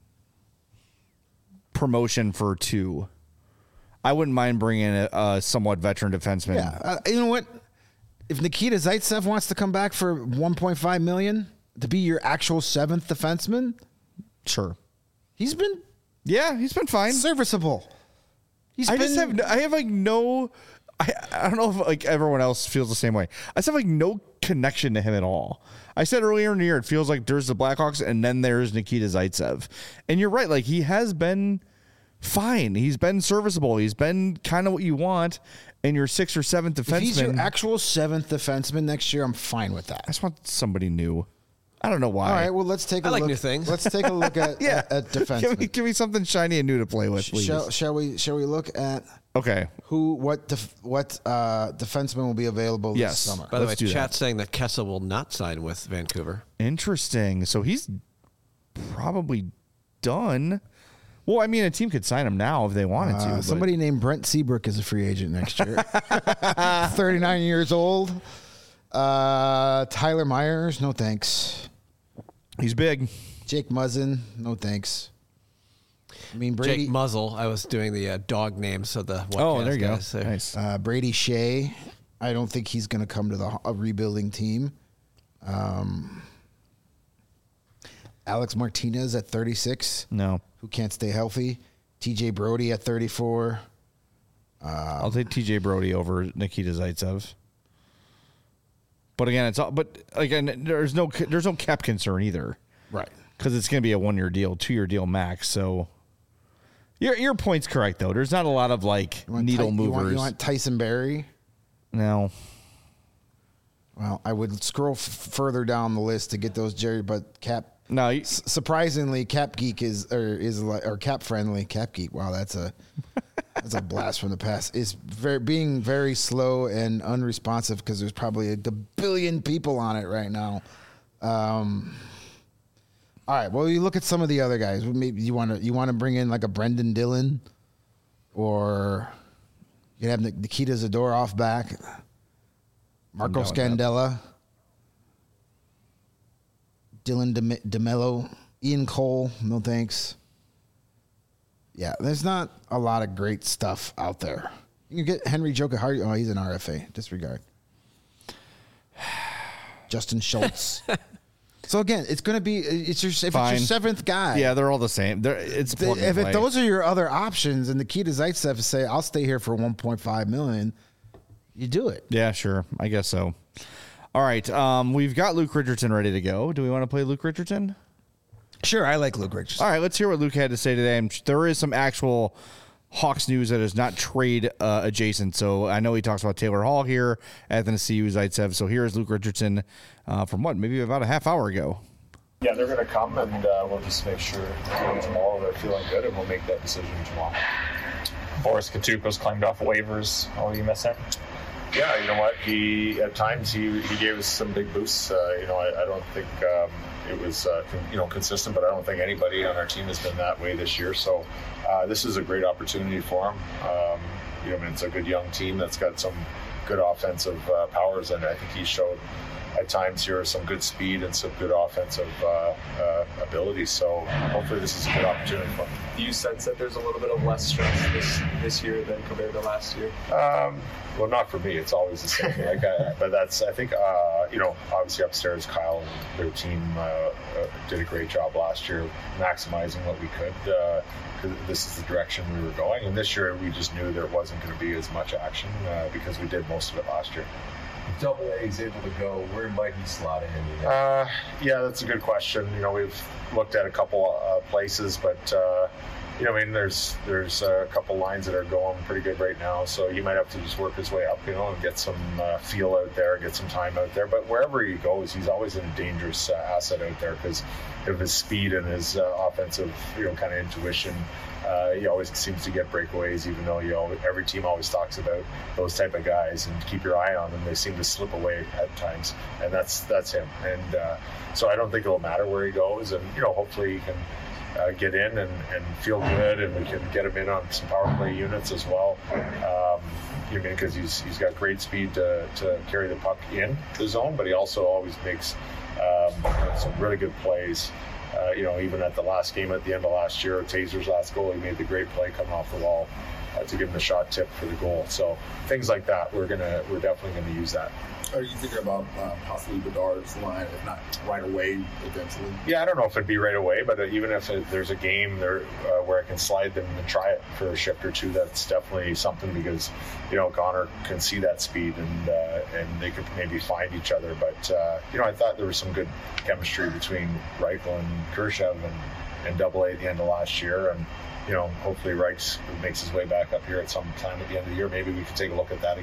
promotion for two. I wouldn't mind bringing in a, a somewhat veteran defenseman. Yeah, uh, you know what? If Nikita Zaitsev wants to come back for one point five million to be your actual seventh defenseman, Sure. he's been Yeah, he's been fine. serviceable. He's I been, just have. I have like no. I, I don't know if like everyone else feels the same way. I just have like no connection to him at all. I said earlier in the year, it feels like there's the Blackhawks and then there's Nikita Zaitsev, and you're right. Like he has been fine. He's been serviceable. He's been kind of what you want in your sixth or seventh defenseman. If he's your actual seventh defenseman next year, I'm fine with that. I just want somebody new. I don't know why. All right, well, let's take a I like look. new things. Let's take a look at yeah, at, at defensemen. give me give me something shiny and new to play with, please. Shall, shall we? Shall we look at Okay. who, what, def, what uh, defenseman will be available Yes. this summer? By the Let's way, do chat's saying that Kessa will not sign with Vancouver. Interesting. So he's probably done. Well, I mean, a team could sign him now if they wanted to. Uh, but- somebody named Brent Seabrook is a free agent next year. thirty-nine years old. Uh, Tyler Myers, no thanks. He's big. Jake Muzzin, no thanks. I mean, Brady, Jake Muzzle. I was doing the uh, dog names, so the Oh, there you go. guys there. Nice. uh, Brady Shea. I don't think he's going to come to the a rebuilding team. Um, Alex Martinez at thirty-six, No. who can't stay healthy. T J Brody at thirty-four. I'll take T J Brody over Nikita Zaitsev. But again, it's all, but again, there's no there's no cap concern either. Right. Because it's going to be a one year deal, two year deal max. So your your point's correct though. There's not a lot of like You want needle Ty- movers. You want, you want Tyson Berry? No. Well, I would scroll f- further down the list to get those Jerry, but Cap. No. You, s- Surprisingly, Cap Geek is or is like or Cap friendly. Cap Geek. Wow, that's a that's a blast from the past. Is very being very slow and unresponsive because there's probably a billion people on it right now. Um. All right. Well, you look at some of the other guys. Maybe you want to you want to bring in like a Brendan Dillon, or you have Nikita Zadorov back. Marco I'm down with that. Scandella, Dylan De- DeMello, Ian Cole, no thanks. Yeah, there's not a lot of great stuff out there. You can get Henry Jokiharju. Oh, he's an R F A. Disregard. Justin Schultz. So again, it's going to be it's your if Fine. it's your seventh guy. yeah, they're all the same. They're, it's Th- plug and if it, play. those are your other options, and Nikita Zaitsev say, "I'll stay here for one point five million," you do it. Yeah, sure. I guess so. All right. Um, we've got Luke Richardson ready to go. Do we want to play Luke Richardson? Sure, I like Luke Richardson. All right. Let's hear what Luke had to say today. And there is some actual Hawks news that is not trade uh, adjacent. So I know he talks about Taylor Hall here, Athanasiu Zaitsev. So here is Luke Richardson uh, from what, maybe about a half hour ago. Yeah, they're going to come, and uh, we'll just make sure you know, tomorrow they're feeling good, and we'll make that decision tomorrow. Boris Katsuko's claimed off waivers. Oh, you missed that? Yeah, you know what? He at times he, he gave us some big boosts. Uh, you know, I, I don't think um, it was uh, con- you know consistent, but I don't think anybody on our team has been that way this year. So uh, this is a great opportunity for him. Um, you know, I mean, it's a good young team that's got some good offensive uh, powers, and I think he showed at times here some good speed and some good offensive uh, uh, ability. So hopefully this is a good opportunity for him. Do you sense that there's a little bit of less stress this this year than compared to last year? Um, well, not for me. It's always the same. Like, I, but that's I think uh, you know obviously upstairs, Kyle and their team uh, uh, did a great job last year, maximizing what we could. Uh, 'cause this is the direction we were going, and this year we just knew there wasn't going to be as much action uh, because we did most of it last year. If Double A is able to go, where might he slot in? You know? Uh, yeah, that's a good question. You know, we've looked at a couple uh, places, but uh, you know, I mean, there's there's a couple lines that are going pretty good right now. So he might have to just work his way up, you know, and get some uh, feel out there, get some time out there. But wherever he goes, he's always a dangerous uh, asset out there because of his speed and his uh, offensive, you know, kind of intuition. Uh, he always seems to get breakaways, even though you know every team always talks about those type of guys and keep your eye on them. They seem to slip away at times, and that's that's him. And uh, so I don't think it'll matter where he goes, and you know hopefully he can uh, get in and, and feel good, and we can get him in on some power play units as well. Um, you mean because he's he's got great speed to, to carry the puck in the zone, but he also always makes um, some really good plays. Uh, you know, even at the last game at the end of last year, Taser's last goal, he made the great play coming off the wall uh, to give him the shot tip for the goal. So things like that, we're gonna, we're definitely gonna use that. Are you thinking about uh, possibly Bedard's line, if not right away, eventually? Yeah, I don't know if it'd be right away, but even if it, there's a game there uh, where I can slide them and try it for a shift or two, that's definitely something because you know Connor can see that speed and uh, and they could maybe find each other. But uh, you know, I thought there was some good chemistry between Reichel and Khrushchev and, and Double A at the end of last year, and you know, hopefully Reichs makes his way back up here at some time at the end of the year. Maybe we could take a look at that again.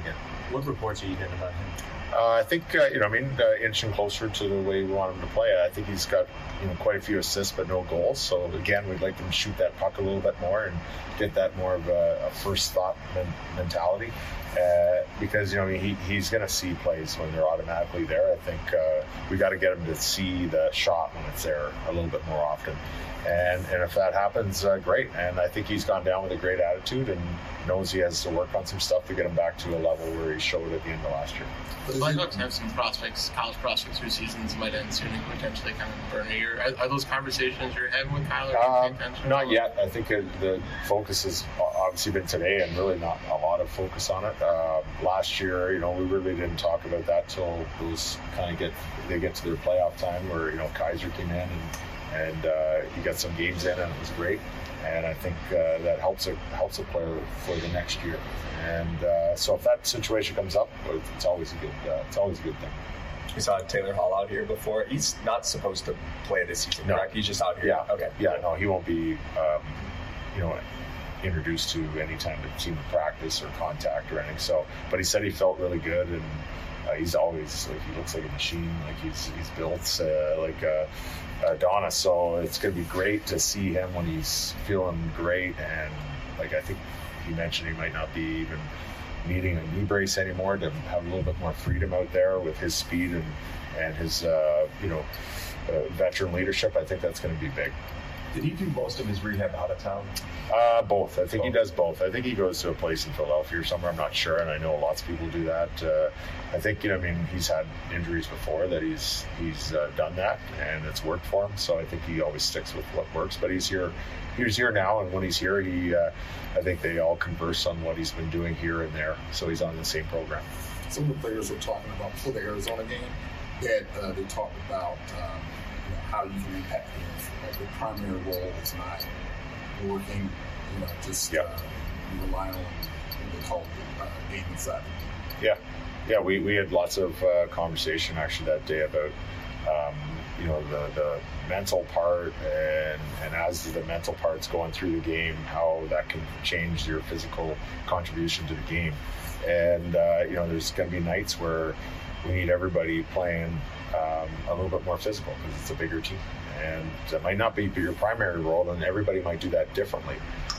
What reports are you getting about him? Uh, I think, uh, you know, I mean, uh, inching closer to the way we want him to play. I think he's got, you know, quite a few assists, but no goals. So, again, we'd like him to shoot that puck a little bit more and get that more of a, a first thought men- mentality. Uh, because, you know, he, he's going to see plays when they're automatically there. I think uh, we got to get him to see the shot when it's there a little bit more often. And and if that happens, uh, great. And I think he's gone down with a great attitude and knows he has to work on some stuff to get him back to a level where he showed at the end of last year. The Blackhawks have some prospects, college prospects whose seasons might end soon and potentially kind of burn a year. Are, are those conversations you're having with Kyler? Um, not yet. I think it, the focus has obviously been today and really not a lot of focus on it. Um, last year, you know, we really didn't talk about that till those kind of get they get to their playoff time where, you know, Kaiser came in and and uh, he got some games in and it was great. And I think uh, that helps a helps a player for the next year. And uh, so if that situation comes up, it's always a good uh, it's always a good thing. We saw Taylor Hall out here before. He's not supposed to play this season, No. correct? He's just out here. Yeah. Okay. Yeah. No, he won't be, um, you know, introduced to any time of team practice or contact or anything. So, but he said he felt really good, and uh, he's always like he looks like a machine. Like he's he's built uh, like a, a Adonis. So it's gonna be great to see him when he's feeling great. And like I think he mentioned, he might not be even needing a knee brace anymore to have a little bit more freedom out there with his speed and and his uh, you know uh, veteran leadership. I think that's going to be big. Did he do most of his rehab out of town? Uh, both. I think both. he does both. I think he goes to a place in Philadelphia or somewhere. I'm not sure, and I know lots of people do that. Uh, I think, you know, I mean, he's had injuries before that he's he's uh, done that, and it's worked for him. So I think he always sticks with what works. But he's here, he's here now, and when he's here, he, uh, I think they all converse on what he's been doing here and there. So he's on the same program. Some of the players were talking about for the Arizona game that uh, they talked about um, you know, how you can impact games. Like the primary role is not working, you know, just Yep. uh, relying on what they call uh, game inside. Yeah, yeah. We, we had lots of uh, conversation actually that day about um, you know the, the mental part and and as the mental part's going through the game, how that can change your physical contribution to the game. And uh, you know, there's going to be nights where we need everybody playing um, a little bit more physical because it's a bigger team, and that might not be your primary role, and everybody might do that differently.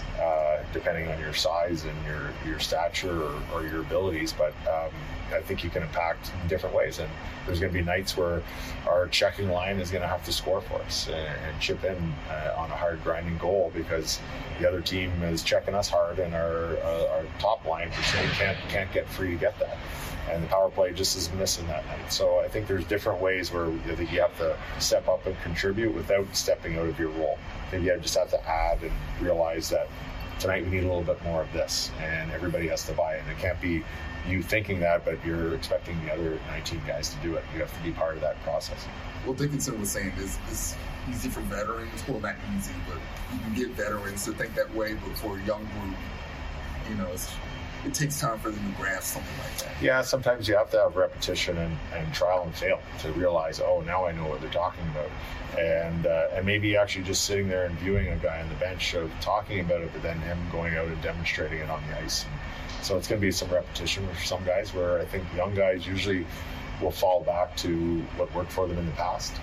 Uh, depending on your size and your, your stature or, or your abilities, but um, I think you can impact in different ways. And there's going to be nights where our checking line is going to have to score for us and, and chip in uh, on a hard grinding goal because the other team is checking us hard, and our uh, our top line can't can't get free to get that. And the power play just is missing that night. So I think there's different ways where I think you have to step up and contribute without stepping out of your role. I think you just have to add and realize that tonight we need a little bit more of this, and everybody has to buy in. It can't be you thinking that, but you're expecting the other nineteen guys to do it. You have to be part of that process. Well, Dickinson was saying this is easy for veterans. Well, not easy, but you can get veterans to think that way, but for a young group, you know, it's, it takes time for them to grasp something like that. Yeah, sometimes you have to have repetition and, and trial and fail to realize, oh, now I know what they're talking about. And uh, and maybe actually just sitting there and viewing a guy on the bench of talking about it, but then him going out and demonstrating it on the ice. And so it's going to be some repetition for some guys, where I think young guys usually will fall back to what worked for them in the past.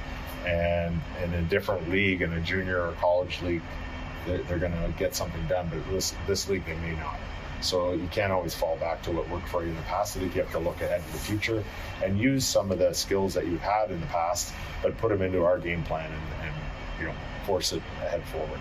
And in a different league, in a junior or college league, they're, they're going to get something done. But this, this league, they may not. So you can't always fall back to what worked for you in the past. I think you have to look ahead to the future and use some of the skills that you've had in the past, but put them into our game plan and, and you know, force it ahead forward.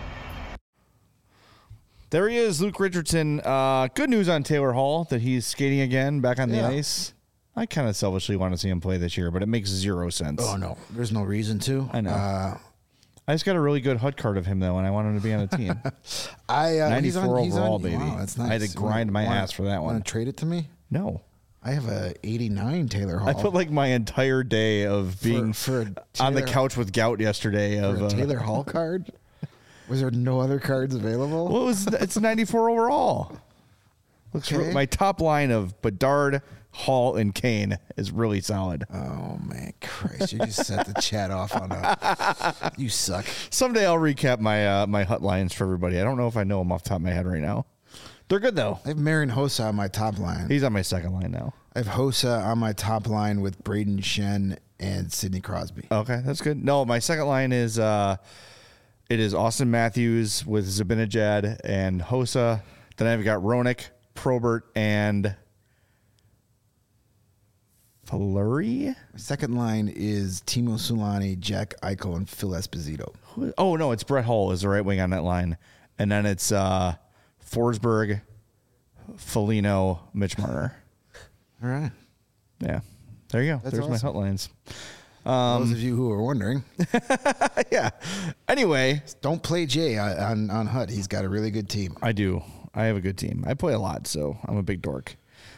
There he is, Luke Richardson. Uh, good news on Taylor Hall that he's skating again back on Yeah. the ice. I kind of selfishly want to see him play this year, but it makes zero sense. Oh, no. There's no reason to. I know. Uh, I just got a really good H U D card of him, though, and I want him to be on a team. I uh, he's ninety-four on, he's overall, on, baby. Wow, that's nice. I had to grind my Wanna- ass for that one. Want to trade it to me? No. I have a eighty-nine Taylor Hall. I put like my entire day of being for a on the Taylor- couch with gout yesterday. for Of a uh, Taylor Hall card. Was there no other cards available? What was it's ninety-four overall? Looks Okay. re- my top line of Bedard, Hall, and Kane is really solid. Oh man, Christ! You just set the chat off on a. You suck. Someday I'll recap my uh, my H U D lines for everybody. I don't know if I know them off the top of my head right now. They're good though. I have Marion Hossa on my top line. He's on my second line now. I have Hossa on my top line with Braden Shen and Sidney Crosby. Okay, that's good. No, my second line is uh, it is Austin Matthews with Zibanejad and Hossa. Then I've got Roenick, Probert, and Fleury. My second line is Timo Sulani, Jack Eichel, and Phil Esposito. Who- Oh no, it's Brett Hull is the right wing on that line, and then it's uh, Forsberg, Foligno, Mitch Marner. All right. Yeah, there you go. That's There's my awesome. hot lines. Those of you who are wondering, Yeah. Anyway, don't play Jay on, on, on H U D. He's got a really good team. I do. I have a good team. I play a lot, so I'm a big dork.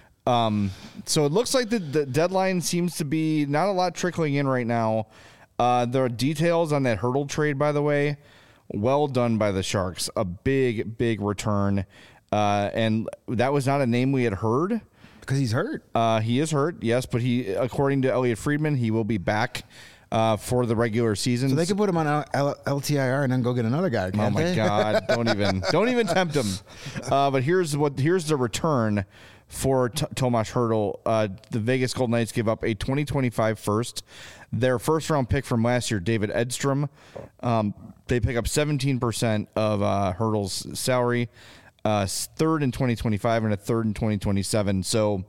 Um, so it looks like the, the deadline seems to be not a lot trickling in right now. Uh, there are details on that Hurdle trade, by the way. Well done by the Sharks. A big, big return. Uh, and that was not a name we had heard. Because he's hurt. Uh, he is hurt, yes, but he, according to Elliot Friedman, he will be back uh, for the regular season. So they could put him on L- L- L T I R and then go get another guy. Oh can't my they? God! Don't even, don't even tempt him. Uh, but here's what, here's the return for T- Tomas Hertl. Uh, the Vegas Golden Knights give up a twenty twenty-five first, their first round pick from last year, David Edstrom. Um, they pick up seventeen percent of uh, Hertl's salary, uh, third in twenty twenty-five and a third in twenty twenty-seven. So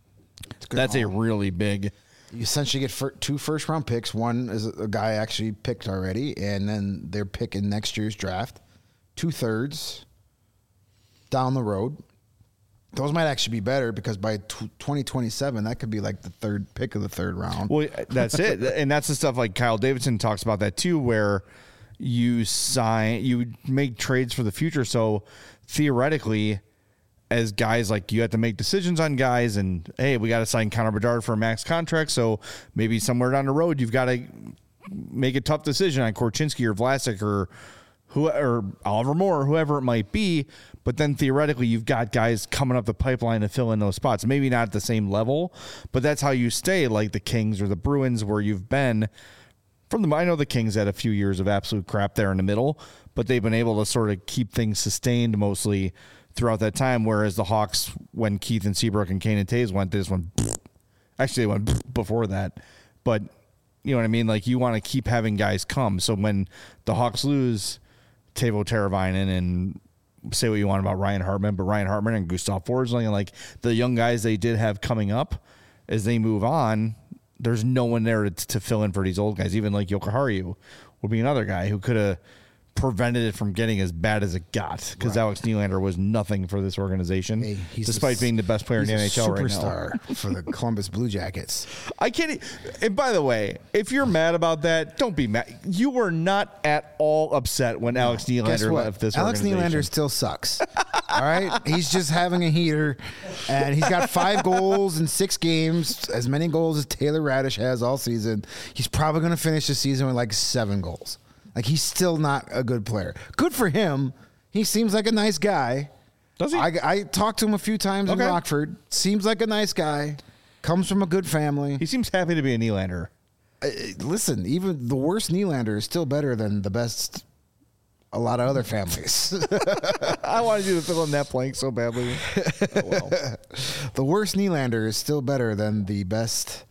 good that's a haul. really big. You essentially get fir- two first round picks. One is a guy actually picked already, and then they're picking next year's draft. Two thirds down the road. Those might actually be better because by t- twenty twenty-seven, that could be like the third pick of the third round. Well, that's it. And that's the stuff like Kyle Davidson talks about that too, where you sign, you make trades for the future. So theoretically, as guys, like you have to make decisions on guys, and hey, we got to sign Connor Bedard for a max contract. So maybe somewhere down the road, you've got to make a tough decision on Korchinski or Vlasic or who or Oliver Moore, or whoever it might be. But then theoretically, you've got guys coming up the pipeline to fill in those spots. Maybe not at the same level, but that's how you stay like the Kings or the Bruins, where you've been from the. I know the Kings had a few years of absolute crap there in the middle, but they've been able to sort of keep things sustained mostly throughout that time. Whereas the Hawks, when Keith and Seabrook and Kane and Taves went, they just went. Actually, they went before that, but you know what I mean. Like you want to keep having guys come. So when the Hawks lose Teuvo Teravainen and say what you want about Ryan Hartman, but Ryan Hartman and Gustav Forsling and like the young guys they did have coming up as they move on, there's no one there to, to fill in for these old guys. Even like Jokiharju would be another guy who could have prevented it from getting as bad as it got because Right. Alex Nylander was nothing for this organization, Hey, he's despite a- being the best player in the N He's H a L right now. superstar for the Columbus Blue Jackets. I can't. e- And by the way, if you're mad about that, don't be mad. You were not at all upset when Alex Guess Nylander what? left this Alex organization. Nylander still sucks. All right, he's just having a heater, and he's got five goals in six games, as many goals as Taylor Radish has all season. He's probably going to finish the season with like seven goals. Like he's still not a good player. Good for him. He seems like a nice guy. Does he? I, I talked to him a few times Okay. in Rockford. Seems like a nice guy. Comes from a good family. He seems happy to be a Nylander. Uh, listen, even the worst Nylander is still better than the best. A lot of other families. I wanted you to fill in that blank so badly. Oh, well. The worst Nylander is still better than the best.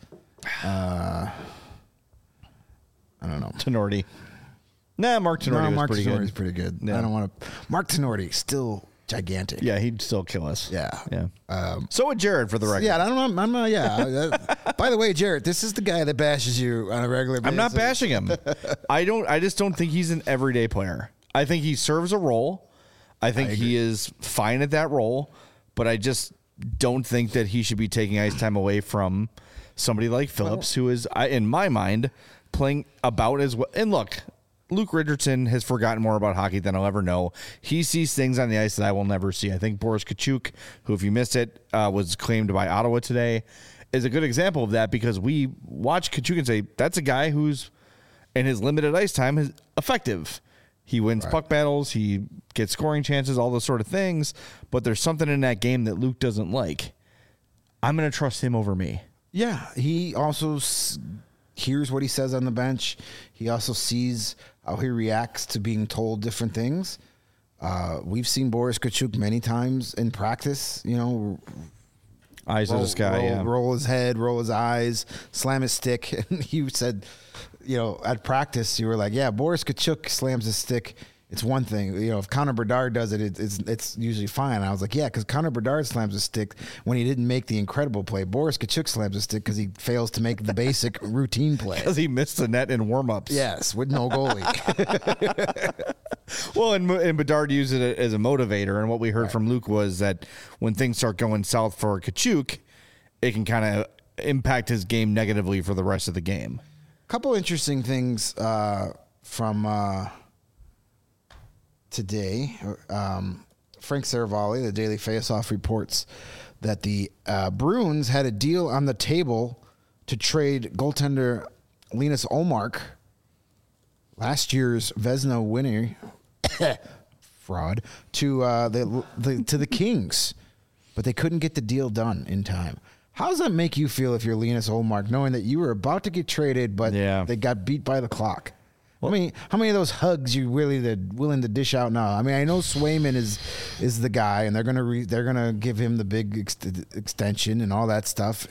Uh, I don't know. Tenorti. Nah, Mark Tenorti No, was Mark pretty Tenorti's good. pretty good. Yeah. I don't want to. Mark Tenorti still gigantic. Yeah, he'd still kill us. Yeah. Yeah. Um, So would Jared for the record. yeah, I don't know. I'm not. Yeah. Uh, by the way, Jared, this is the guy that bashes you on a regular basis. I'm not bashing him. I don't. I just don't think he's an everyday player. I think he serves a role. I think he is fine at that role, but I just don't think that he should be taking ice time away from somebody like Phillips, who is, I- in my mind, playing about as well. And look, Luke Richardson has forgotten more about hockey than I'll ever know. He sees things on the ice that I will never see. I think Boris Kachuk, who, if you missed it, uh, was claimed by Ottawa today, is a good example of that because we watch Kachuk and say, that's a guy who's, in his limited ice time, is effective. He wins puck battles. He gets scoring chances, all those sort of things. But there's something in that game that Luke doesn't like. I'm going to trust him over me. Yeah, he also s- hears what he says on the bench. He also sees how he reacts to being told different things. Uh, we've seen Boris Kachuk many times in practice. You know, Eyes roll, of the sky, roll, yeah. roll his head, roll his eyes, slam his stick. And you said, you know, at practice, you were like, yeah, Boris Kachuk slams his stick. It's one thing, you know, if Connor Bedard does it, it it's it's usually fine. And I was like, yeah, because Connor Bedard slams his stick when he didn't make the incredible play. Boris Kachuk slams his stick because he fails to make the basic routine play. Because he missed the net in warm-ups. Yes, with no goalie. Well, and, and Bedard used it as a motivator, and what we heard right. from Luke was that when things start going south for Kachuk, it can kind of impact his game negatively for the rest of the game. A couple interesting things uh, from... Uh, Today, um, Frank Saravalli, the Daily Faceoff, reports that the uh, Bruins had a deal on the table to trade goaltender Linus Ullmark, last year's Vezina winner, fraud, to uh, the, the to the Kings, but they couldn't get the deal done in time. How does that make you feel if you're Linus Ullmark, knowing that you were about to get traded, but yeah. they got beat by the clock? Well, I mean, how many of those hugs you really the, willing to dish out now? I mean, I know Swayman is is the guy, and they're gonna re, they're gonna give him the big ex- extension and all that stuff.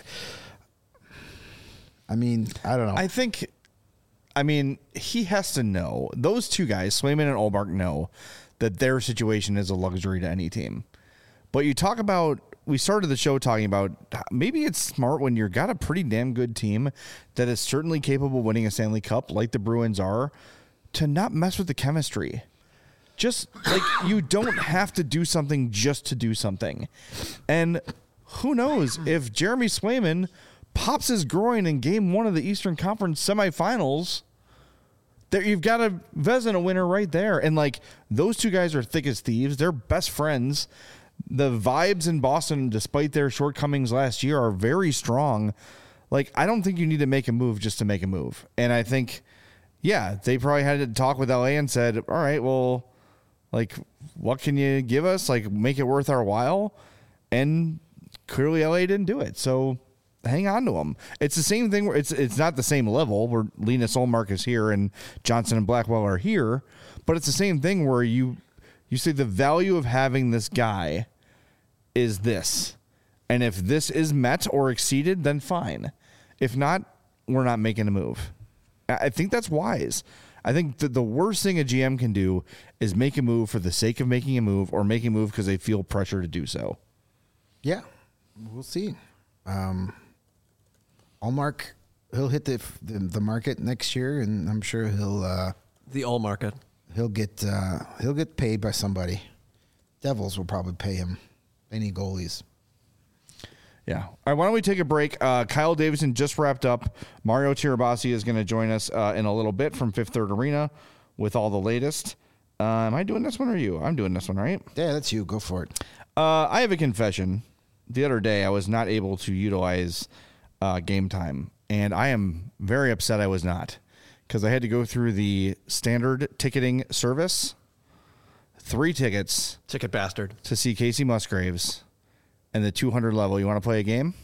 I mean, I don't know. I think, I mean, he has to know. Those two guys, Swayman and Ullmark, know that their situation is a luxury to any team. But you talk about. We started the show talking about maybe it's smart when you've got a pretty damn good team that is certainly capable of winning a Stanley Cup like the Bruins are to not mess with the chemistry. Just like you don't have to do something just to do something. And who knows if Jeremy Swayman pops his groin in game one of the Eastern Conference semifinals, there you've got a Vezina winner right there. And like those two guys are thick as thieves. They're best friends. The vibes in Boston, despite their shortcomings last year, are very strong. Like, I don't think you need to make a move just to make a move. And I think, yeah, they probably had to talk with L A and said, all right, well, like, what can you give us? Like, make it worth our while. And clearly L A didn't do it. So hang on to them. It's the same thing where it's it's not the same level where Linus Ullmark is here and Johnson and Blackwell are here, but it's the same thing where you you say the value of having this guy is this. And if this is met or exceeded, then fine. If not, we're not making a move. I think that's wise. I think that the worst thing a G M can do is make a move for the sake of making a move or make a move because they feel pressure to do so. Yeah, we'll see. Um, Ullmark, he'll hit the, the the market next year, and I'm sure he'll uh, the all market. He'll get uh, he'll get paid by somebody. Devils will probably pay him. They need goalies. Yeah. All right, why don't we take a break? Uh, Kyle Davidson just wrapped up. Mario Tirabassi is going to join us uh, in a little bit from Fifth Third Arena with all the latest. Uh, am I doing this one or you? I'm doing this one, right? Yeah, that's you. Go for it. Uh, I have a confession. The other day, I was not able to utilize uh, Game Time, and I am very upset I was not because I had to go through the standard ticketing service. Three tickets. Ticket bastard. To see Casey Musgraves. And the two hundred level. You want to play a game?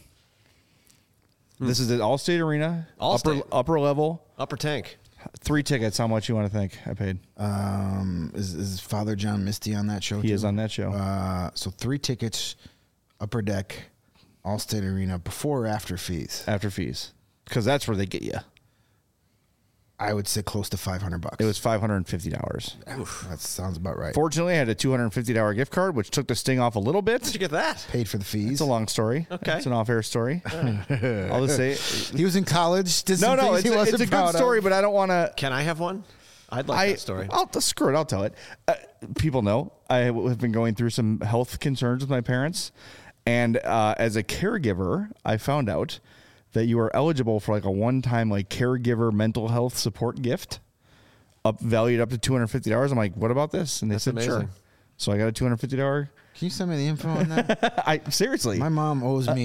Hmm. This is at Allstate Arena. Allstate. Upper, upper level. Upper tank. Three tickets. How much you want to think I paid? Um, is, is Father John Misty on that show? He too? is on that show. Uh, so three tickets, upper deck, Allstate Arena, before or after fees? After fees. Because that's where they get you. I would say close to five hundred bucks. It was five hundred fifty dollars. Oof, that sounds about right. Fortunately, I had a two hundred fifty dollars gift card, which took the sting off a little bit. How'd you get that? Paid for the fees. It's a long story. Okay. It's an off-air story. I'll just say. He was in college. Did no, some no, things it's he a, wasn't it's a good proud story, of. but I don't want to. Can I have one? I'd like I, that story. I'll screw it. I'll tell it. Uh, people know I have been going through some health concerns with my parents, and uh, as a caregiver, I found out that you are eligible for like a one-time like caregiver mental health support gift, up valued up to two hundred fifty dollars. I'm like, what about this? And they That's said, amazing. sure. So I got a two hundred fifty dollars. Can you send me the info on that? I seriously. My mom owes me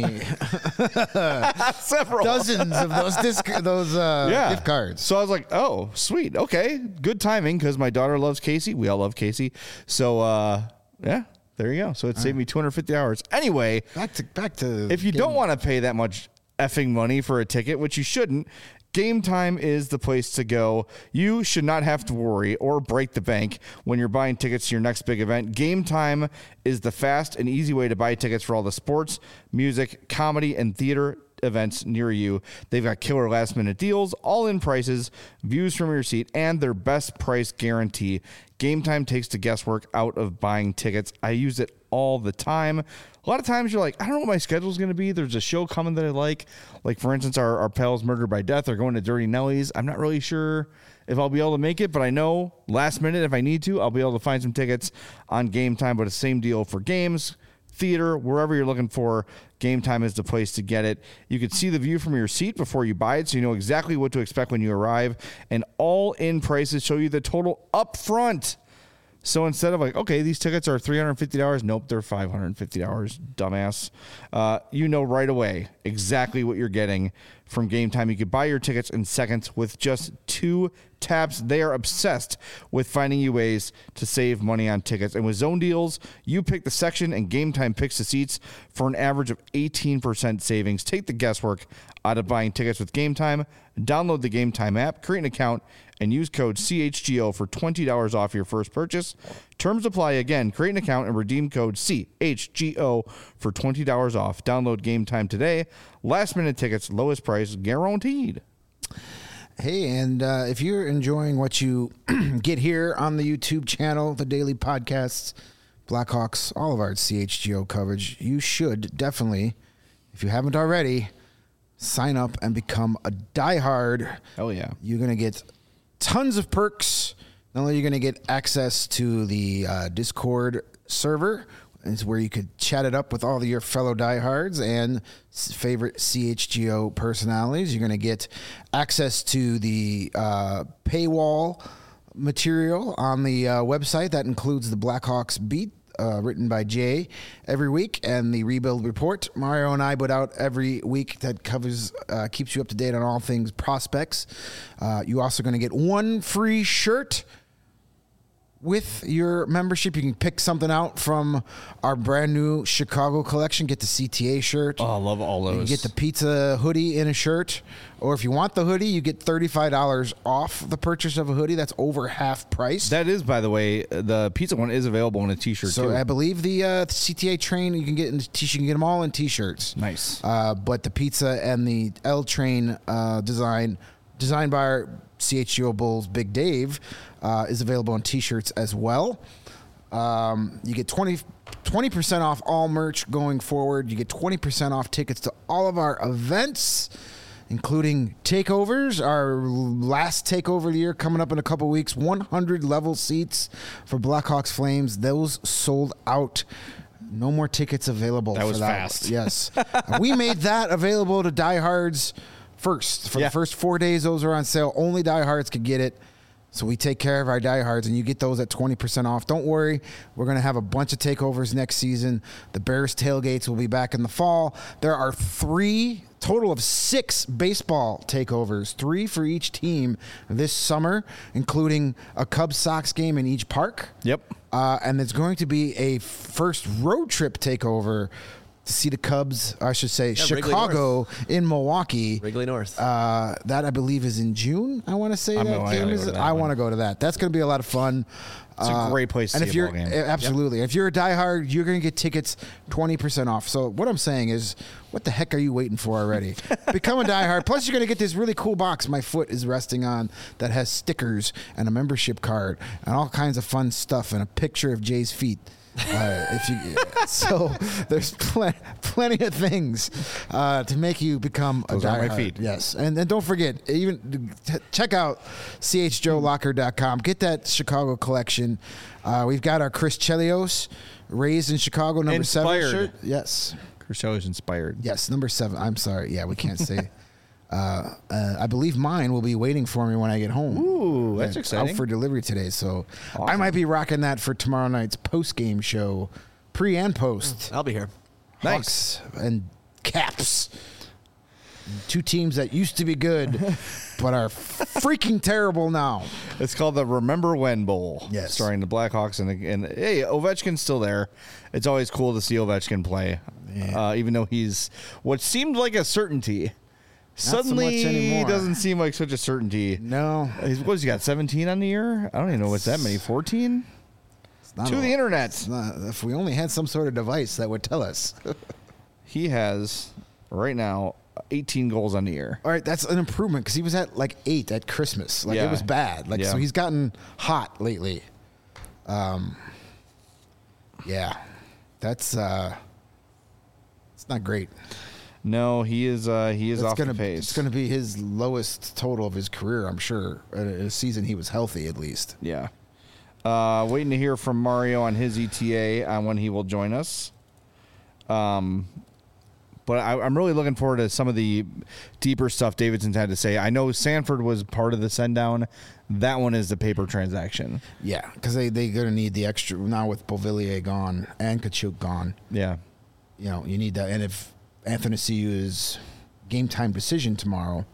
several dozens of those disc, those uh, yeah. gift cards. So I was like, oh, sweet. Okay. Good timing because my daughter loves Casey. We all love Casey. So, uh, yeah, there you go. So it all saved right. me two hundred fifty dollars. Anyway, back to back to if you getting... don't want to pay that much effing money for a ticket, which you shouldn't, Game Time is the place to go. You should not have to worry or break the bank when you're buying tickets to your next big event. Game Time is the fast and easy way to buy tickets for all the sports, music, comedy, and theater events near you. They've got killer last minute deals, all in prices, views from your seat, and their best price guarantee. Game Time takes the guesswork out of buying tickets. I use it all the time. A lot of times you're like, I don't know what my schedule is going to be. There's a show coming that I like. Like, for instance, our, our pals Murdered by Death are going to Dirty Nellies. I'm not really sure if I'll be able to make it, but I know last minute, if I need to, I'll be able to find some tickets on Game Time. But it's the same deal for games, theater, wherever you're looking for. Game Time is the place to get it. You can see the view from your seat before you buy it, so you know exactly what to expect when you arrive. And all-in prices show you the total up front. So instead of like, okay, these tickets are three hundred fifty dollars, nope, they're five hundred fifty dollars, dumbass. Uh, you know right away exactly what you're getting from Game Time. You can buy your tickets in seconds with just two taps. They are obsessed with finding you ways to save money on tickets. And with Zone Deals, you pick the section and Game Time picks the seats for an average of eighteen percent savings. Take the guesswork out of buying tickets with Game Time. Download the Game Time app, create an account, and use code C H G O for twenty dollars off your first purchase. Terms apply. Again, create an account and redeem code C H G O for twenty dollars off. Download Game Time today. Last minute tickets, lowest price guaranteed. Hey, and uh, if you're enjoying what you get here on the YouTube channel, the daily podcasts, Blackhawks, all of our C H G O coverage, you should definitely, if you haven't already, sign up and become a diehard. Oh, yeah. You're going to get tons of perks. Not only are you going to get access to the uh, Discord server, it's where you could chat it up with all of your fellow diehards and favorite C H G O personalities. You're going to get access to the uh, paywall material on the uh, website. That includes the Blackhawks Beat, uh, written by Jay every week, and the Rebuild Report Mario and I put out every week that covers, uh, keeps you up to date on all things prospects. Uh, you're also going to get one free shirt with your membership. You can pick something out from our brand new Chicago collection. Get the C T A shirt. Oh, I love all those. You get the pizza hoodie in a shirt. Or if you want the hoodie, you get thirty-five dollars off the purchase of a hoodie. That's over half price. That is, by the way, the pizza one is available in a t-shirt, so too. I believe the uh, C T A train, you can get in the t-shirt. You can get them all in t-shirts. Nice. Uh, but the pizza and the L train uh, design, designed by our C H G O Bulls Big Dave, uh, is available on t-shirts as well. Um, you get twenty percent off all merch going forward. You get twenty percent off tickets to all of our events, including takeovers. Our last takeover of the year coming up in a couple weeks. one hundred level seats for Blackhawks Flames. Those sold out. No more tickets available. That for was that. fast. Yes. We made that available to diehards first. For Yeah. the first four days, those are on sale. Only diehards could get it. So we take care of our diehards, and you get those at twenty percent off. Don't worry. We're going to have a bunch of takeovers next season. The Bears tailgates will be back in the fall. There are three, total of six baseball takeovers, three for each team this summer, including a Cubs Sox game in each park. Yep. Uh, and there's going to be a first road trip takeover to see the Cubs, I should say, Yeah, Wrigley Chicago in Milwaukee. Wrigley North. Uh, that I believe is in June. I want to say I'm that gonna- I game gotta is. go to that I one. want to go to that. That's going to be a lot of fun. It's a great place to and see if a you're ball game. eh, absolutely, if you're a diehard, you're going to get tickets twenty percent off. So what I'm saying is, what the heck are you waiting for already? Become a diehard. Plus, you're going to get this really cool box my foot is resting on that has stickers and a membership card and all kinds of fun stuff and a picture of Jay's feet. Uh, if you, so there's pl- plenty of things uh, to make you become Those a are my diehard. feet. Yes, and then don't forget, even t- check out C H G O locker dot com. Get that Chicago collection. Uh, we've got our Chris Chelios, raised in Chicago, number Inspired. seven shirt. Yes, Chris is inspired. yes, number seven. I'm sorry. Yeah, we can't say. Uh, uh, I believe mine will be waiting for me when I get home. Ooh, that's Yeah, exciting. Out for delivery today, so I Awesome. might be rocking that for tomorrow night's post game show, pre and post. I'll be here. Hawks and Caps, two teams that used to be good, but are freaking terrible now. It's called the Remember When Bowl. Yes. Starring the Blackhawks. And, the, and hey, Ovechkin's still there. It's always cool to see Ovechkin play, uh, even though he's what seemed like a certainty suddenly so much anymore. doesn't seem like such a certainty. No. He's- What has he got? seventeen on the year? I don't even know what's that many. fourteen? Not To a- the internet. it's not- if we only had some sort of device that would tell us. He has right now eighteen goals on the year. All right, that's an improvement because he was at like eight at Christmas. Like Yeah. it was bad. Like Yeah. so, he's gotten hot lately. Um, yeah, that's uh, it's not great. No, he is. Uh, he is It's off gonna the pace. it's gonna be his lowest total of his career. I'm sure. In a season he was healthy at least. Yeah. Uh, waiting to hear from Mario on his E T A on when he will join us. Um, but I, I'm really looking forward to some of the deeper stuff Davidson's had to say. I know Sanford was part of the send down. That one is the paper transaction. Yeah, because they they're gonna need the extra now with Beauvillier gone and Kachuk gone. Yeah. You know, you need that. And if Anthony C U is game time decision tomorrow.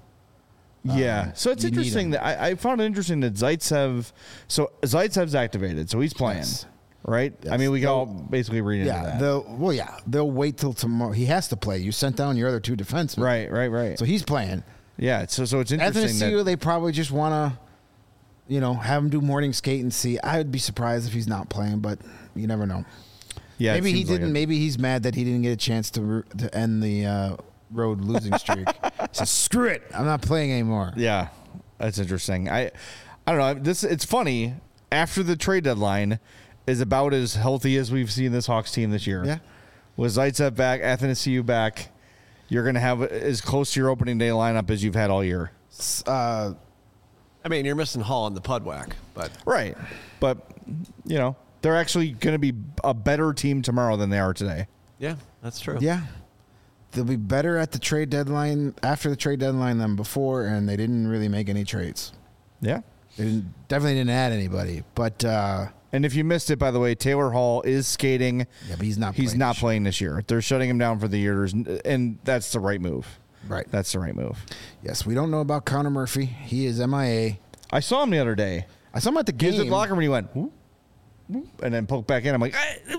Yeah. Um, So it's you need interesting him. that I, I found it interesting that Zaitsev. So Zaitsev's activated, so he's playing, Yes. right? I Yes. mean, we can They'll- all basically read into Yeah, that. they'll well, yeah, they'll wait till tomorrow. He has to play. You sent down your other two defensemen, Right, right, right. So he's playing. yeah. So so it's interesting Anthony C U, that they probably just want to, you know, have him do morning skate and see. I would be surprised if he's not playing, but you never know. yeah, it maybe he seems like didn't. it. Maybe he's mad that he didn't get a chance to ru- to end the uh, road losing streak. So screw it, I'm not playing anymore. Yeah, that's interesting. I, I don't know. This it's funny. After the trade deadline is about as healthy as we've seen this Hawks team this year. Yeah. With Zaitsev back, Athanasiou back, you're going to have as close to your opening day lineup as you've had all year. S- Uh, I mean, you're missing Hall on the Pudwack, but Right. But you know they're actually going to be a better team tomorrow than they are today. yeah, that's true. yeah, they'll be better at the trade deadline after the trade deadline than before, and they didn't really make any trades. Yeah. They didn't, definitely didn't add anybody, but uh, And if you missed it, by the way, Taylor Hall is skating. yeah, but he's not. He's playing not this year. playing this year. They're shutting him down for the year, There's- and that's the right move. Right. That's the right move. Yes, we don't know about Connor Murphy. He is M I A. I saw him the other day. I saw him at the He was game. at the locker room and he went, whoop, whoop, and then poked back in. I'm like,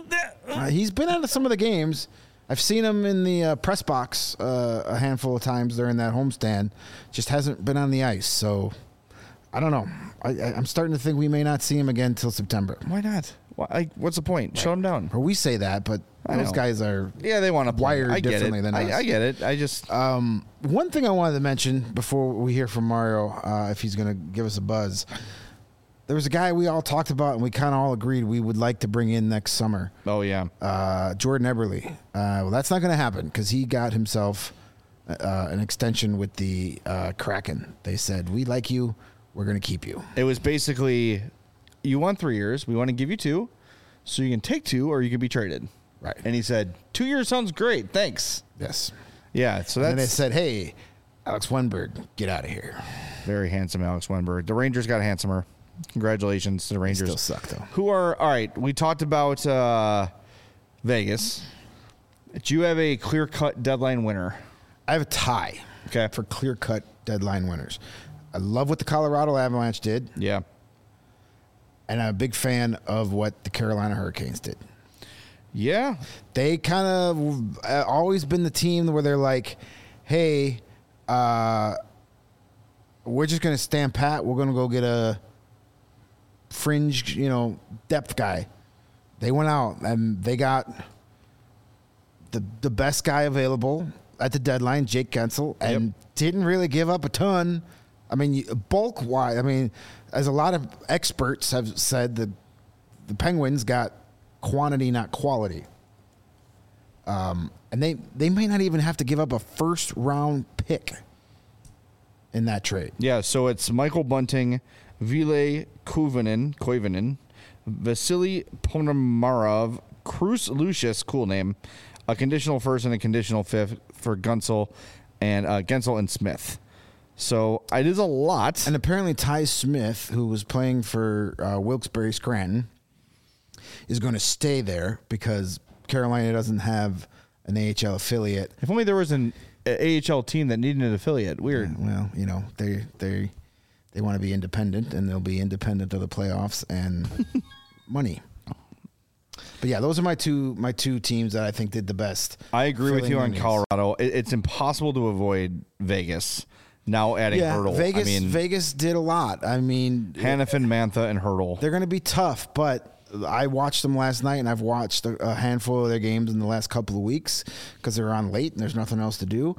Uh, he's been out of some of the games. I've seen him in the uh, press box uh, a handful of times during that homestand. Just hasn't been on the ice. So I don't know. I, I, I'm starting to think we may not see him again until September. why not? Why, like, what's the point? Shut him down. Or we say that, but I those know. guys are. Yeah, they want to play. Wired I get differently it. than I, us. I get it. I just Um, one thing I wanted to mention before we hear from Mario, uh, if he's going to give us a buzz, there was a guy we all talked about and we kind of all agreed we would like to bring in next summer. oh yeah, Uh, Jordan Eberle. Uh, well, that's not going to happen because he got himself uh, an extension with the uh, Kraken. They said, "We like you. We're going to keep you." it was basically, you want three years. We want to give you two, so you can take two or you can be traded. Right. And he said, two years sounds great. Thanks. Yes. Yeah. So And then they that's said, "Hey, Alex Wenberg, get out of here." very handsome, Alex Wenberg. The Rangers got handsomer. Congratulations to the Rangers. Still suck though. Who are all right? We talked about uh, Vegas. Do you have a clear cut deadline winner? I have a tie. Okay. For clear cut deadline winners. I love what the Colorado Avalanche did, Yeah. and I'm a big fan of what the Carolina Hurricanes did. Yeah. They kind of uh, always been the team where they're like, "Hey, uh, we're just going to stand pat. We're going to go get a fringe, you know, depth guy." They went out and they got the the best guy available at the deadline, Jake Gensel, and Yep. didn't really give up a ton. I mean, bulk wise, I mean, as a lot of experts have said, the the Penguins got quantity, not quality. Um, and they, they may not even have to give up a first round pick in that trade. Yeah. So it's Michael Bunting, Ville Koivunen, Koivunen, Vasily Ponomarov, Cruz Lucius, cool name, a conditional first and a conditional fifth for Gunsel and uh, Gensel and Smith. So it is a lot. And apparently Ty Smith, who was playing for uh, Wilkes-Barre Scranton, is going to stay there because Carolina doesn't have an A H L affiliate. If only there was an A H L team that needed an affiliate. Weird. Well, you know, they they they want to be independent, and they'll be independent of the playoffs and money. But yeah, those are my two my two teams that I think did the best. I agree with filling you their on needs. Colorado. It, it's impossible to avoid Vegas. Now adding Yeah, Hurdle. Vegas. I mean, Vegas did a lot. I mean, Hannafin, Mantha, and Hurdle. they're going to be tough, but I watched them last night, and I've watched a, a handful of their games in the last couple of weeks because they're on late and there's nothing else to do.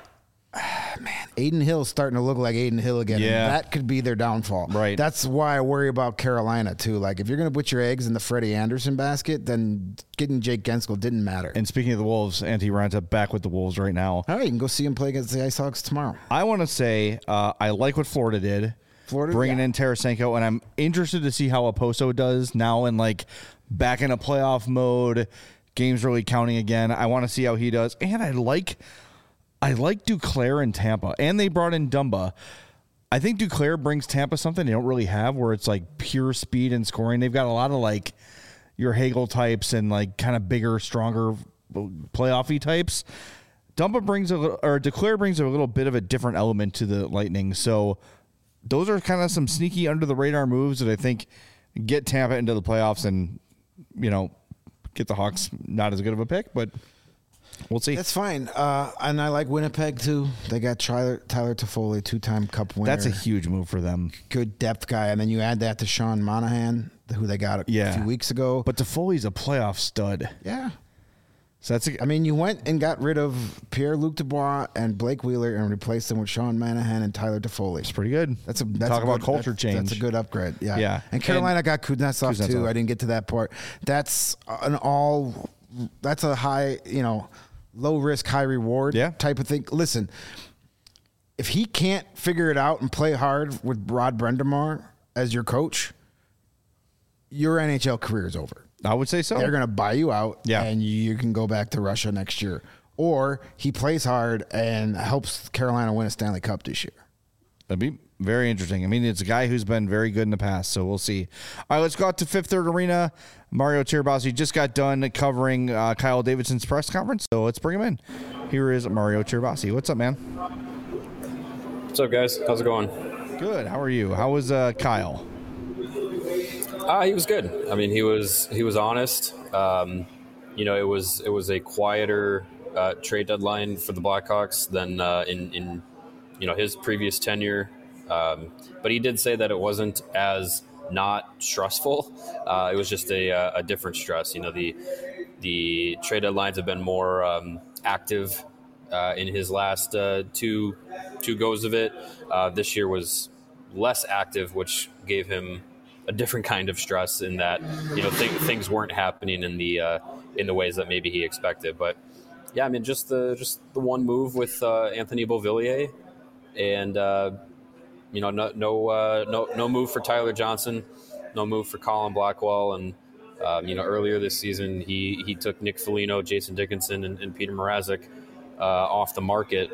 Man, Aiden Hill's starting to look like Aiden Hill again. Yeah. And that could be their downfall. Right. That's why I worry about Carolina, too. Like, if you're going to put your eggs in the Freddie Anderson basket, then getting Jake Genskill didn't matter. And speaking of the Wolves, Antti Ranta back with the Wolves right now. All right, you can go see him play against the Ice Hawks tomorrow. I want to say uh, I like what Florida did. Florida, bringing yeah. in Tarasenko, and I'm interested to see how Oposo does now and like back in a playoff mode. Games really counting again. I want to see how he does, and I like I like Duclair in Tampa, and they brought in Dumba. I think Duclair brings Tampa something they don't really have, where it's like pure speed and scoring. They've got a lot of like your Hagel types and like kind of bigger, stronger playoffy types. Dumba brings a little, or Duclair brings a little bit of a different element to the Lightning. So those are kind of some sneaky under the radar moves that I think get Tampa into the playoffs and, you know, get the Hawks not as good of a pick, but we'll see. That's fine. Uh, and I like Winnipeg, too. They got Tyler, Tyler Toffoli, two-time Cup winner. That's a huge move for them. Good depth guy. And then you add that to Sean Monahan, who they got a Yeah. few weeks ago. But Toffoli's a playoff stud. Yeah. So that's a, I mean, you went and got rid of Pierre-Luc Dubois and Blake Wheeler and replaced them with Sean Monahan and Tyler Toffoli. it's pretty good. That's a that's Talk a about good- culture that's, change. That's a good upgrade. Yeah. Yeah. And Carolina And got Kuznetsov, Kuznetsov. too. I didn't get to that part. That's an all. That's a high, you know, low risk, high reward Yeah. type of thing. Listen, if he can't figure it out and play hard with Rod Brendamar as your coach, your N H L career is over. I would say so. They're going to buy you out, Yeah. and you can go back to Russia next year. Or he plays hard and helps Carolina win a Stanley Cup this year. That'd be very interesting. I mean, it's a guy who's been very good in the past, so we'll see. All right, let's go out to Fifth Third Arena. Mario Tirabassi just got done covering uh, Kyle Davidson's press conference, so let's bring him in. Here is Mario Tirabassi. What's up, man? What's up, guys? How's it going? Good. How are you? How was uh, Kyle? Uh, he was good. I mean, he was he was honest. Um, you know, it was it was a quieter uh, trade deadline for the Blackhawks than uh, in in you know his previous tenure. Um, but he did say that it wasn't as not stressful. Uh, it was just a, a different stress. You know, the the trade deadlines have been more um, active uh, in his last uh, two two goes of it. Uh, this year was less active, which gave him a different kind of stress in that, you know, th- things weren't happening in the uh, in the ways that maybe he expected. But yeah, I mean, just the just the one move with uh, Anthony Beauvillier, and uh, you know, no no uh, no no move for Tyler Johnson, no move for Colin Blackwell, and um, you know, earlier this season he he took Nick Foligno, Jason Dickinson, and, and Peter Mrazek uh, off the market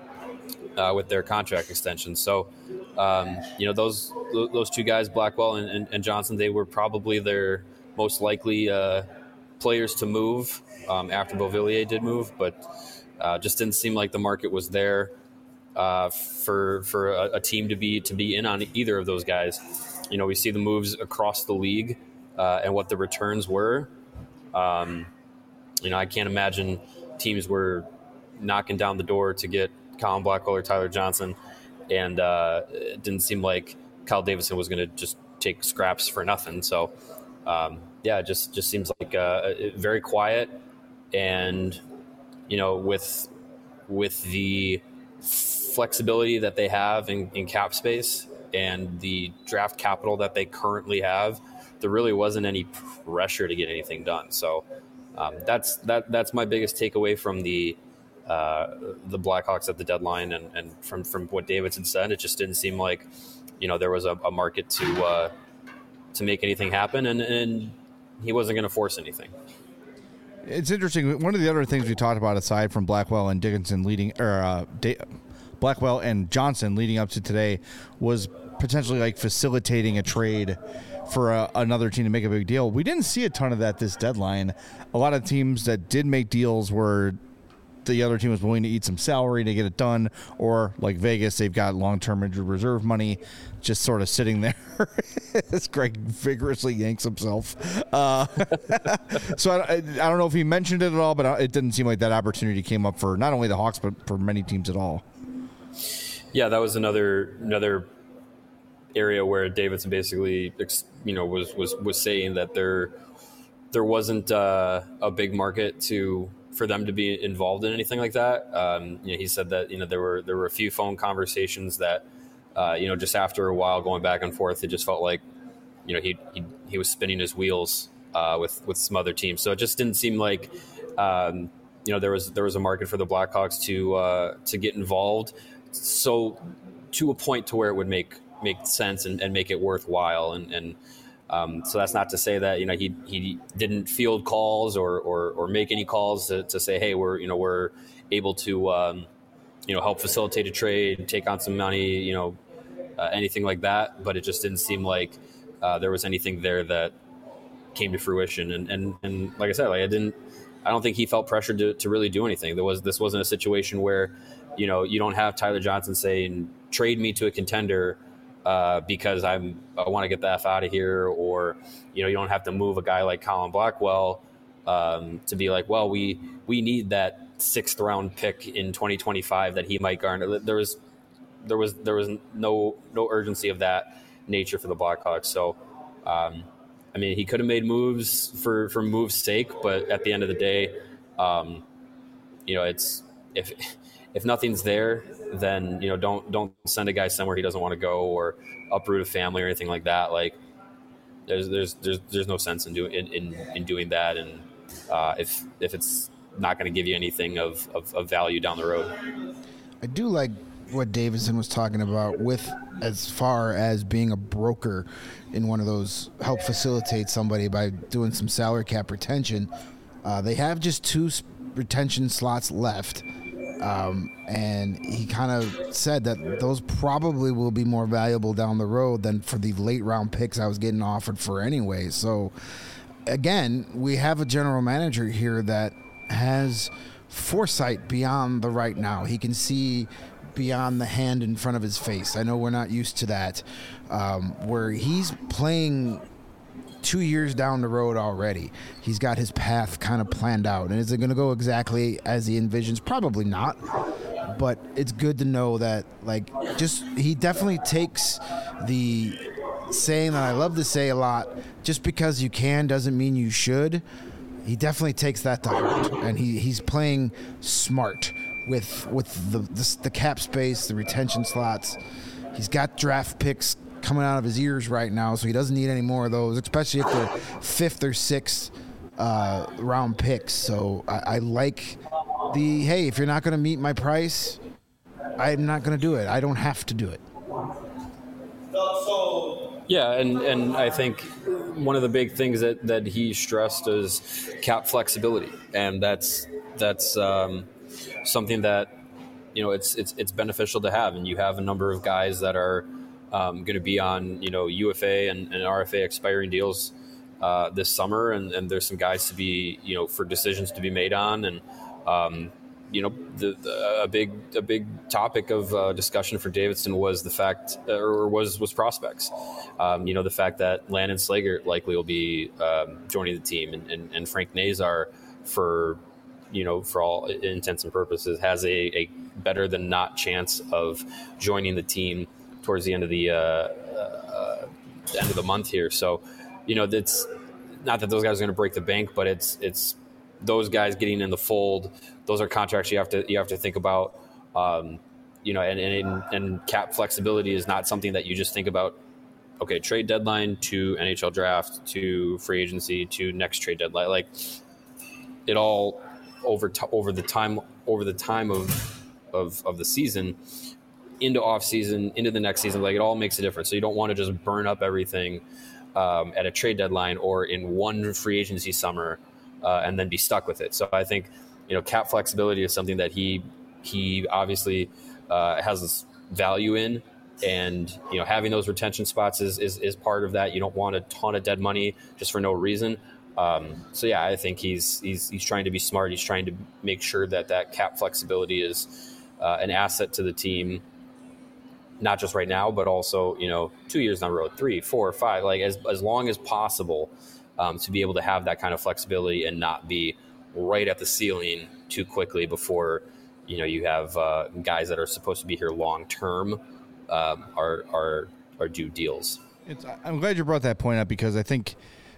uh, with their contract extensions. So. Um, you know, those those two guys, Blackwell and, and, and Johnson, they were probably their most likely uh, players to move um, after Beauvillier did move, but uh, just didn't seem like the market was there uh, for for a, a team to be to be in on either of those guys. You know, we see the moves across the league uh, and what the returns were. Um, you know, I can't imagine teams were knocking down the door to get Colin Blackwell or Tyler Johnson. And uh, it didn't seem like Kyle Davidson was going to just take scraps for nothing. So, um, yeah, it just, just seems like uh, very quiet. And, you know, with with the flexibility that they have in, in cap space and the draft capital that they currently have, there really wasn't any pressure to get anything done. So um, that's that that's my biggest takeaway from the Uh, the Blackhawks at the deadline, and, and from, from what Davidson said, it just didn't seem like, you know, there was a, a market to uh, to make anything happen, and, and he wasn't going to force anything. It's interesting. One of the other things we talked about, aside from Blackwell and Dickinson leading, or uh, da- Blackwell and Johnson leading up to today, was potentially like facilitating a trade for a, another team to make a big deal. We didn't see a ton of that this deadline. A lot of teams that did make deals were the other team was willing to eat some salary to get it done, or like Vegas, they've got long-term injured reserve money just sort of sitting there as Greg vigorously yanks himself. Uh, so I, I don't know if he mentioned it at all, but it didn't seem like that opportunity came up for not only the Hawks, but for many teams at all. Yeah, that was another another area where Davidson basically, you know, was was was saying that there there wasn't uh, a big market to for them to be involved in anything like that. Um, you know, he said that you know there were there were a few phone conversations that uh, you know just after a while going back and forth, it just felt like you know he he, he was spinning his wheels uh, with with some other teams. So it just didn't seem like um, you know there was there was a market for the Blackhawks to uh, to get involved. So to a point to where it would make make sense and, and make it worthwhile. And, and um, so that's not to say that, you know, he, he didn't field calls or, or, or make any calls to, to say, hey, we're, you know, we're able to, um, you know, help facilitate a trade, take on some money, you know, uh, anything like that. But it just didn't seem like uh, there was anything there that came to fruition. And, and, and like I said, like I didn't, I don't think he felt pressured to, to really do anything. There was, this wasn't a situation where, you know, you don't have Tyler Johnson saying, trade me to a contender uh, because I'm, I want to get the F out of here. Or, you know, you don't have to move a guy like Colin Blackwell um, to be like, well, we, we need that sixth round pick in twenty twenty-five that he might garner. There was, there was, there was no, no urgency of that nature for the Blackhawks. So, um, I mean, he could have made moves for, for moves' sake, but at the end of the day, um, you know, it's, if, if nothing's there, then, you know, don't, don't send a guy somewhere he doesn't want to go or uproot a family or anything like that. Like there's, there's, there's, there's no sense in doing, in, in, in doing that. And uh, if, if it's not going to give you anything of, of, of value down the road. I do like what Davidson was talking about with as far as being a broker in one of those, help facilitate somebody by doing some salary cap retention. Uh, they have just two retention slots left. Um, and he kind of said that those probably will be more valuable down the road than for the late round picks I was getting offered for anyway. So again, we have a general manager here that has foresight beyond the right now. He can see beyond the hand in front of his face. I know we're not used to that, um, where he's playing two years down the road already. He's got his path kind of planned out. And is it going to go exactly as he envisions? Probably not. But it's good to know that, like, just he definitely takes the saying that I love to say a lot, just because you can doesn't mean you should. He definitely takes that to heart. And he, he's playing smart with with the, the the cap space, the retention slots. He's got draft picks coming out of his ears right now, so he doesn't need any more of those, especially if they're fifth or sixth uh, round picks. So I, I like the, hey, if you're not going to meet my price, I'm not going to do it. I don't have to do it. Yeah, and, and I think one of the big things that, that he stressed is cap flexibility, and that's that's um, something that, you know, it's it's it's beneficial to have, and you have a number of guys that are Um, going to be on, you know, U F A and, and R F A expiring deals uh, this summer, and, and there's some guys to be, you know, for decisions to be made on, and um, you know, the, the, a big a big topic of uh, discussion for Davidson was the fact, or was was prospects. Um, you know, the fact that Landon Slager likely will be um, joining the team, and, and, and Frank Nazar, for you know, for all intents and purposes, has a, a better than not chance of joining the team towards the end of the uh, uh, end of the month here. So, you know, it's not that those guys are going to break the bank, but it's it's those guys getting in the fold. Those are contracts you have to you have to think about. Um, you know, and, and and cap flexibility is not something that you just think about. Okay, trade deadline to N H L draft to free agency to next trade deadline. Like it all over t- over the time over the time of of of the season, into off season, into the next season, like it all makes a difference. So you don't want to just burn up everything um, at a trade deadline or in one free agency summer uh, and then be stuck with it. So I think, you know, cap flexibility is something that he, he obviously uh, has value in, and, you know, having those retention spots is, is, is part of that. You don't want a ton of dead money just for no reason. Um, so yeah, I think he's he's he's trying to be smart. He's trying to make sure that that cap flexibility is uh, an asset to the team, not just right now, but also, you know, two years down the road, three, four, five, like as as long as possible, um, to be able to have that kind of flexibility and not be right at the ceiling too quickly before, you know, you have uh, guys that are supposed to be here long term um, are are are due deals. It's, I'm glad you brought that point up, because I think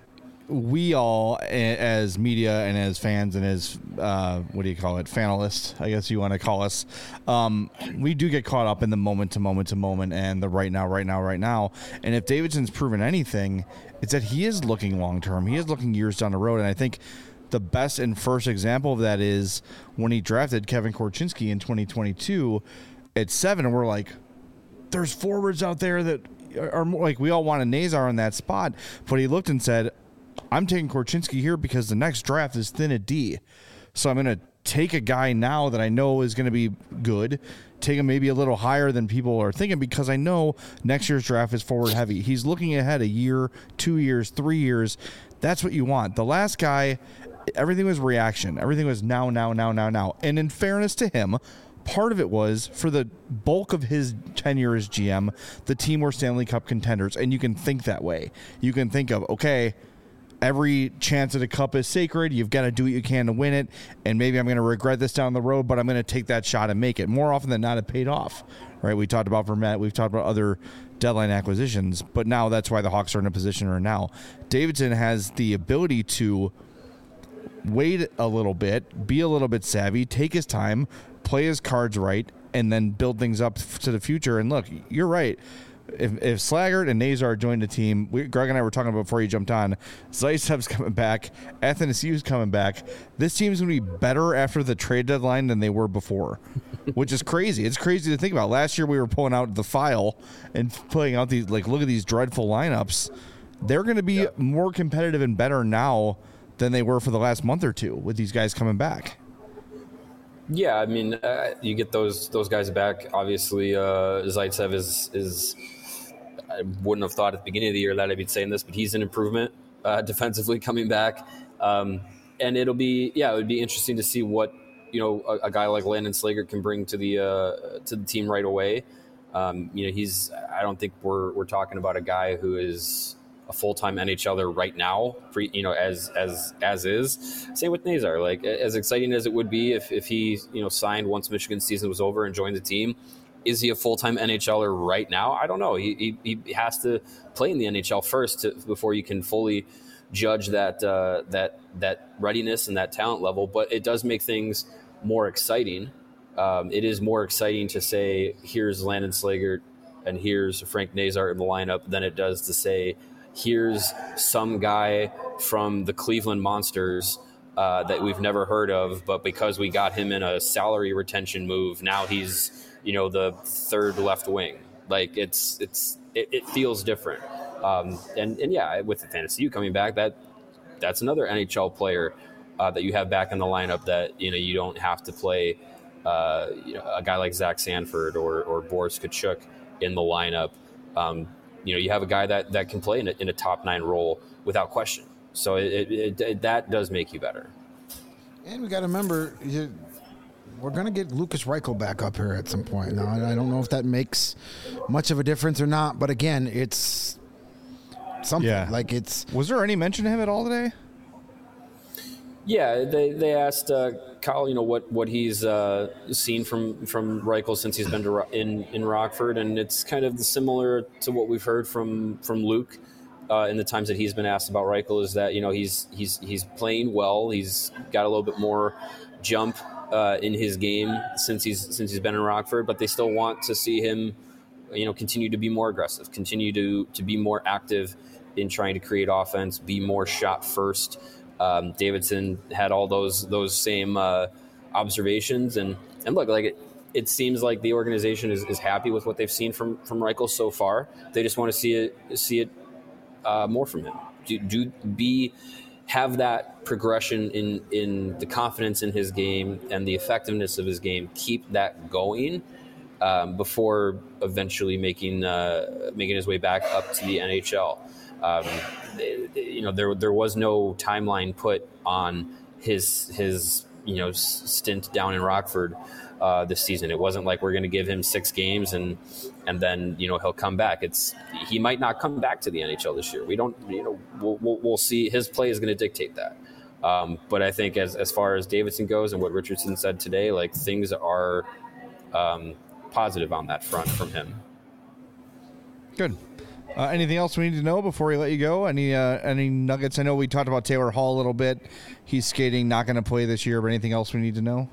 we all, as media and as fans and as uh, what do you call it, fanalists, I guess you want to call us, um, we do get caught up in the moment to moment to moment and the right now, right now, right now. And if Davidson's proven anything, it's that he is looking long term. He is looking years down the road. And I think the best and first example of that is when he drafted Kevin Korchinski in twenty twenty-two at seven, and we're like, there's forwards out there that are more like, we all want a Nazar in that spot, but he looked and said, I'm taking Korchinski here because the next draft is thin at D. So I'm going to take a guy now that I know is going to be good, take him maybe a little higher than people are thinking, because I know next year's draft is forward heavy. He's looking ahead a year, two years, three years. That's what you want. The last guy, everything was reaction. Everything was now, now, now, now, now. And in fairness to him, part of it was for the bulk of his tenure as G M, the team were Stanley Cup contenders. And you can think that way. You can think of, okay, every chance at a cup is sacred. You've got to do what you can to win it. And maybe I'm going to regret this down the road, but I'm going to take that shot and make it. More often than not, it paid off, right? We talked about Vermette. We've talked about other deadline acquisitions, but now that's why the Hawks are in a position right now. Davidson has the ability to wait a little bit, be a little bit savvy, take his time, play his cards right, and then build things up to the future. And look, you're right. If, if Slaggert and Nazar joined the team, we, Greg and I were talking about before you jumped on, Zaitsev's coming back, Athanasiou's coming back. This team's going to be better after the trade deadline than they were before, which is crazy. It's crazy to think about. Last year we were pulling out the file and pulling out these, like, look at these dreadful lineups. They're going to be yep. more competitive and better now than they were for the last month or two with these guys coming back. Yeah, I mean, uh, you get those those guys back. Obviously, uh, Zaitsev is is. I wouldn't have thought at the beginning of the year that I'd be saying this, but he's an improvement uh, defensively coming back. Um, and it'll be, yeah, it would be interesting to see what, you know, a, a guy like Landon Slaggert can bring to the uh, to the team right away. Um, you know, he's, I don't think we're we're talking about a guy who is a full-time N H L er right now, pre, you know, as as as is. Same with Nazar. Like, as exciting as it would be if, if he, you know, signed once Michigan season was over and joined the team, is he a full-time N H L er right now? I don't know. He, he he has to play in the N H L first to, before you can fully judge that uh, that that readiness and that talent level. But it does make things more exciting. Um, it is more exciting to say, here's Landon Slaggert and here's Frank Nazar in the lineup than it does to say, here's some guy from the Cleveland Monsters uh, that we've never heard of, but because we got him in a salary retention move, now he's, you know, the third left wing. Like, it's it's it, it feels different. Um, and and yeah, with the Athanasiou coming back, that that's another N H L player uh, that you have back in the lineup that, you know, you don't have to play uh, you know, a guy like Zach Sanford or or Boris Tkachuk in the lineup. Um, you know, you have a guy that, that can play in a, in a top nine role without question. So it, it, it, that does make you better. And we got to remember, you, we're going to get Lucas Reichel back up here at some point. Now, I don't know if that makes much of a difference or not, but again, it's something. Yeah. Like, it's. Was there any mention of him at all today? Yeah, they they asked uh, Kyle, you know, what what he's uh, seen from from Reichel since he's been to, in in Rockford, and it's kind of similar to what we've heard from from Luke uh, in the times that he's been asked about Reichel. Is that, you know, he's he's he's playing well. He's got a little bit more jump uh, in his game since he's since he's been in Rockford, but they still want to see him, you know, continue to be more aggressive, continue to to be more active in trying to create offense, be more shot first. Um, Davidson had all those those same uh, observations, and and look, like it, it seems like the organization is, is happy with what they've seen from from Reichel so far. They just want to see it see it uh, more from him. Do, do be have that progression in in the confidence in his game and the effectiveness of his game. Keep that going, um, before eventually making uh, making his way back up to the N H L. Um, you know, there there was no timeline put on his his you know stint down in Rockford uh, this season. It wasn't like we're going to give him six games and and then you know he'll come back. It's he might not come back to the N H L this year. We don't you know we'll we'll, we'll see. His play is going to dictate that. Um, but I think as as far as Davidson goes and what Richardson said today, like things are um, positive on that front from him. Good. Uh, anything else we need to know before we let you go? Any uh, any nuggets? I know we talked about Taylor Hall a little bit. He's skating, not going to play this year. But anything else we need to know?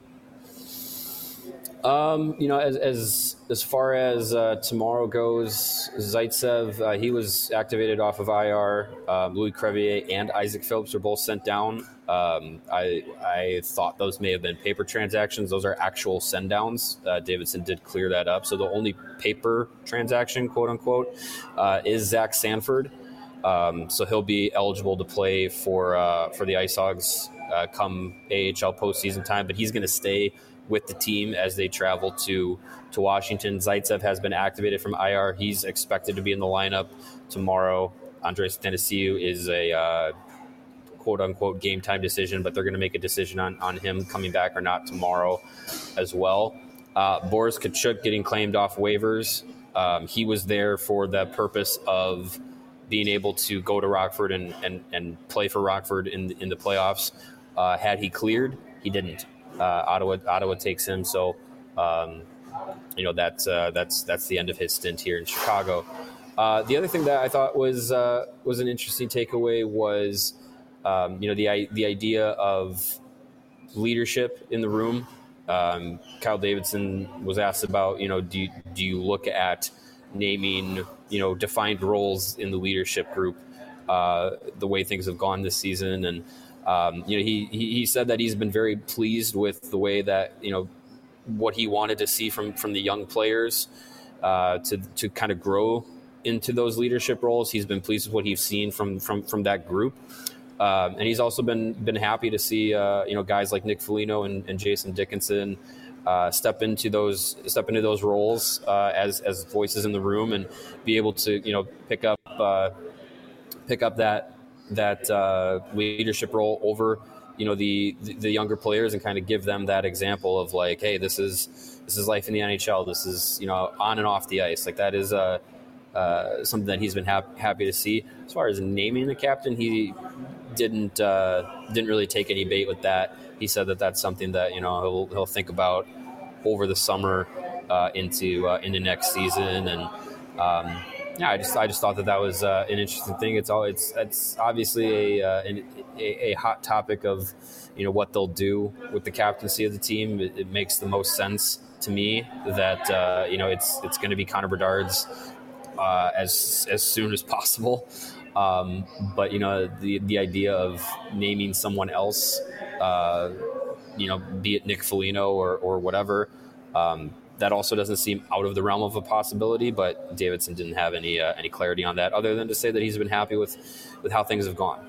Um, you know, as as as far as uh, tomorrow goes, Zaitsev, uh, he was activated off of I R. Um, Louis Crevier and Isaac Phillips were both sent down. Um, I I thought those may have been paper transactions. Those are actual send downs. Uh, Davidson did clear that up. So the only paper transaction, quote unquote, uh, is Zach Sanford. Um, so he'll be eligible to play for uh, for the Ice Hogs uh, come A H L postseason time. But he's going to stay with the team as they travel to to Washington. Zaitsev has been activated from I R. He's expected to be in the lineup tomorrow. Andres Tennessee is a uh, quote-unquote game-time decision, but they're going to make a decision on, on him coming back or not tomorrow as well. Uh, Boris Tkachuk getting claimed off waivers. Um, he was there for the purpose of being able to go to Rockford and, and, and play for Rockford in, in the playoffs. Uh, had he cleared, he didn't. Uh, Ottawa Ottawa takes him, so um, you know that's uh, that's that's the end of his stint here in Chicago. Uh, the other thing that I thought was uh, was an interesting takeaway was um, you know the the idea of leadership in the room. Um, Kyle Davidson was asked about you know do you, do you look at naming you know defined roles in the leadership group uh, the way things have gone this season. And Um, you know, he, he he said that he's been very pleased with the way that, you know, what he wanted to see from, from the young players uh, to to kind of grow into those leadership roles. He's been pleased with what he's seen from from, from that group. Um, and he's also been been happy to see, uh, you know, guys like Nick Foligno and, and Jason Dickinson uh, step into those step into those roles uh, as as voices in the room and be able to, you know, pick up uh, pick up that. that uh, leadership role over, you know, the, the younger players and kind of give them that example of like, hey, this is this is life in the N H L. This is, you know, on and off the ice. Like that is uh, uh, something that he's been hap- happy to see. As far as naming the captain, he didn't uh, didn't really take any bait with that. He said that that's something that, you know, he'll he'll think about over the summer uh, into uh, into next season. And um, Yeah, I just I just thought that that was uh, an interesting thing. It's all it's it's obviously a, uh, an, a a hot topic of you know what they'll do with the captaincy of the team. It, it makes the most sense to me that uh, you know it's it's going to be Connor Bedard's uh, as as soon as possible. Um, but you know the the idea of naming someone else, uh, you know, be it Nick Foligno or or whatever. Um, That also doesn't seem out of the realm of a possibility, but Davidson didn't have any uh, any clarity on that, other than to say that he's been happy with, with how things have gone.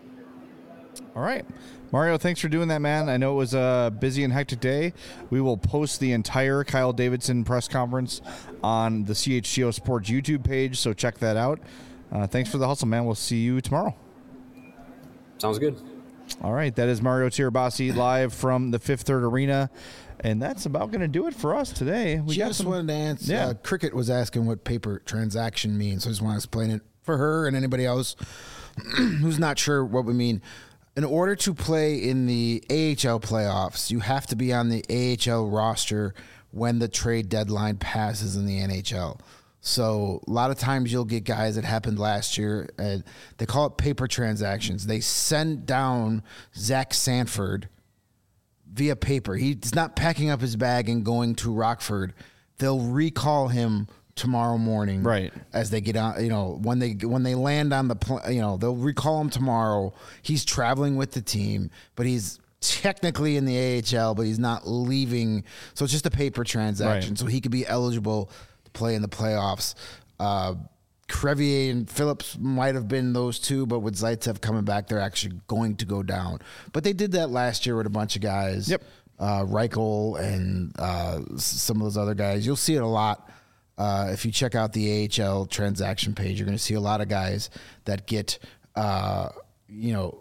All right, Mario, thanks for doing that, man. I know it was a busy and hectic day. We will post the entire Kyle Davidson press conference on the C H G O Sports YouTube page, so check that out. Uh, thanks for the hustle, man. We'll see you tomorrow. Sounds good. All right, that is Mario Tirabassi live from the Fifth Third Arena. And that's about going to do it for us today. We just got some, wanted to answer. Yeah. Uh, Cricket was asking what paper transaction means. So I just want to explain it for her and anybody else who's not sure what we mean. In order to play in the A H L playoffs, you have to be on the A H L roster when the trade deadline passes in the N H L. So a lot of times you'll get guys that happened last year. And they call it paper transactions. They send down Zach Sanford via paper. He's not packing up his bag and going to Rockford. They'll recall him tomorrow morning, right? As they get on, you know, when they when they land on the, pl- you know, they'll recall him tomorrow. He's traveling with the team, but he's technically in the A H L, but he's not leaving. So it's just a paper transaction. Right. So he could be eligible to play in the playoffs. Uh, Crevier and Phillips might have been those two, but with Zaitsev coming back, they're actually going to go down. But they did that last year with a bunch of guys. Yep. uh, Reichel and uh, some of those other guys. You'll see it a lot. Uh, if you check out the A H L transaction page, you're going to see a lot of guys that get, uh, you know,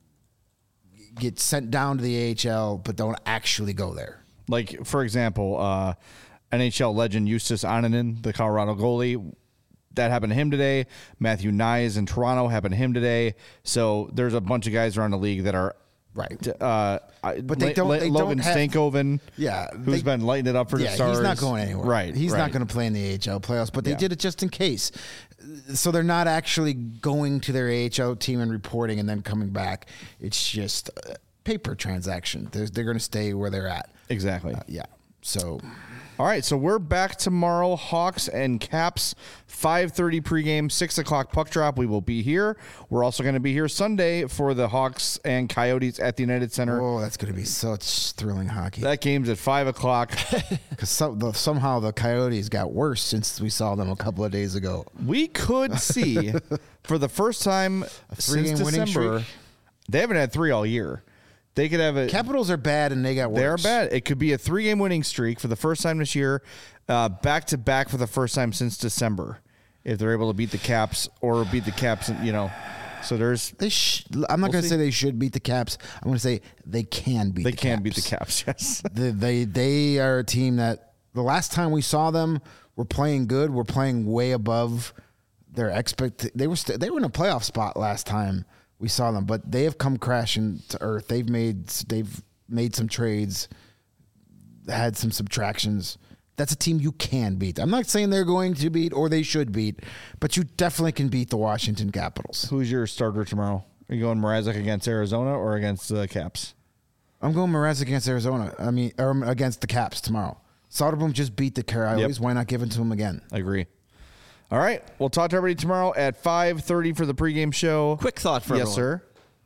get sent down to the A H L, but don't actually go there. Like, for example, uh, N H L legend Justus Annunen, the Colorado goalie, that happened to him today. Matthew Nyes in Toronto happened to him today. So there's a bunch of guys around the league that are right. Uh, but they don't. They Logan don't have, Stankoven, yeah, who's they, been lighting it up for yeah, the Stars. He's not going anywhere. Right. He's right. not going to play in the A H L playoffs. But they yeah. did it just in case. So they're not actually going to their A H L team and reporting and then coming back. It's just a paper transaction. They're, they're going to stay where they're at. Exactly. Uh, yeah. So. All right, so we're back tomorrow. Hawks and Caps, five thirty pregame, six o'clock puck drop. We will be here. We're also going to be here Sunday for the Hawks and Coyotes at the United Center. Oh, that's going to be such thrilling hockey. That game's at five o'clock. Because some, the, somehow the Coyotes got worse since we saw them a couple of days ago. We could see, for the first time since December, they haven't had three all year. They could have a Capitals are bad and they got worse. They're bad. It could be a three-game winning streak for the first time this year, uh, back to back for the first time since December, if they're able to beat the Caps or beat the Caps. You know, so there's. They sh- I'm not we'll going to see. say they should beat the Caps. I'm going to say they can beat. They the can Caps. beat the Caps. Yes. they, they they are a team that the last time we saw them were playing good. We're playing way above their expect. They were st- they were in a playoff spot last time we saw them, but they have come crashing to earth. They've made they've made some trades, had some subtractions. That's a team you can beat. I'm not saying they're going to beat or they should beat, but you definitely can beat the Washington Capitals. Who's your starter tomorrow? Are you going Mrazek against Arizona or against the Caps? I'm going Mrazek against Arizona. I mean, or against the Caps tomorrow. Soderblom just beat the Coyotes. Yep. Why not give it to him again? I agree. All right. We'll talk to everybody tomorrow at five thirty for the pregame show. Quick thought for yes, everyone. sir.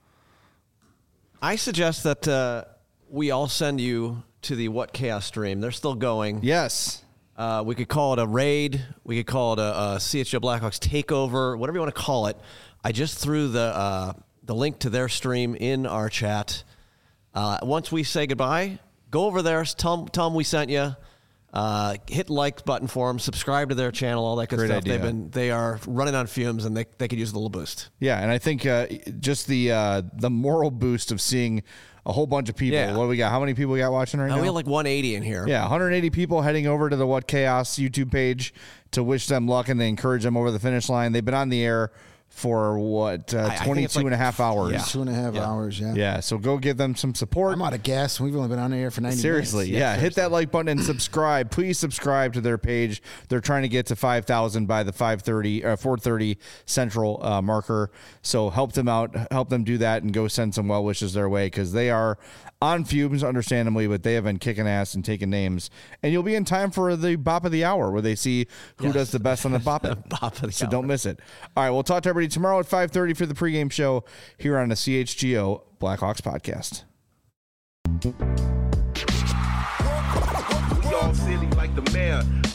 I suggest that uh, we all send you to the What Chaos stream. They're still going. Yes. Uh, we could call it a raid. We could call it a, a C H L Blackhawks takeover, whatever you want to call it. I just threw the uh, the link to their stream in our chat. Uh, once we say goodbye, go over there, tell them, tell them we sent you. Uh, hit the like button for them, subscribe to their channel, all that good Great stuff. idea. They've been they are running on fumes, and they they could use a little boost. Yeah, and I think uh, just the uh, the moral boost of seeing a whole bunch of people. Yeah. What do we got? How many people we got watching right Uh, now? we have like one eighty in here. Yeah, one hundred eighty people heading over to the What Chaos YouTube page to wish them luck and to encourage them over the finish line. They've been on the air for what, uh, I- I think twenty-two it's like- and a half hours. Yeah. Two and a half Yeah. hours, yeah. Yeah, so go give them some support. I'm out of gas. We've only been on the air for ninety Seriously, minutes. yeah. Hit that like button and subscribe. Please subscribe to their page. They're trying to get to five thousand by the five thirty, uh, four thirty Central uh, marker. So help them out. Help them do that and go send some well wishes their way because they are on fumes, understandably, but they have been kicking ass and taking names. And you'll be in time for the Bop of the Hour where they see who Yes. does the best on the Bop It. Bop of the So hour. don't miss it. All right, we'll talk to everybody tomorrow at five thirty for the pregame show here on the C H G O Blackhawks podcast. We all silly like the mayor.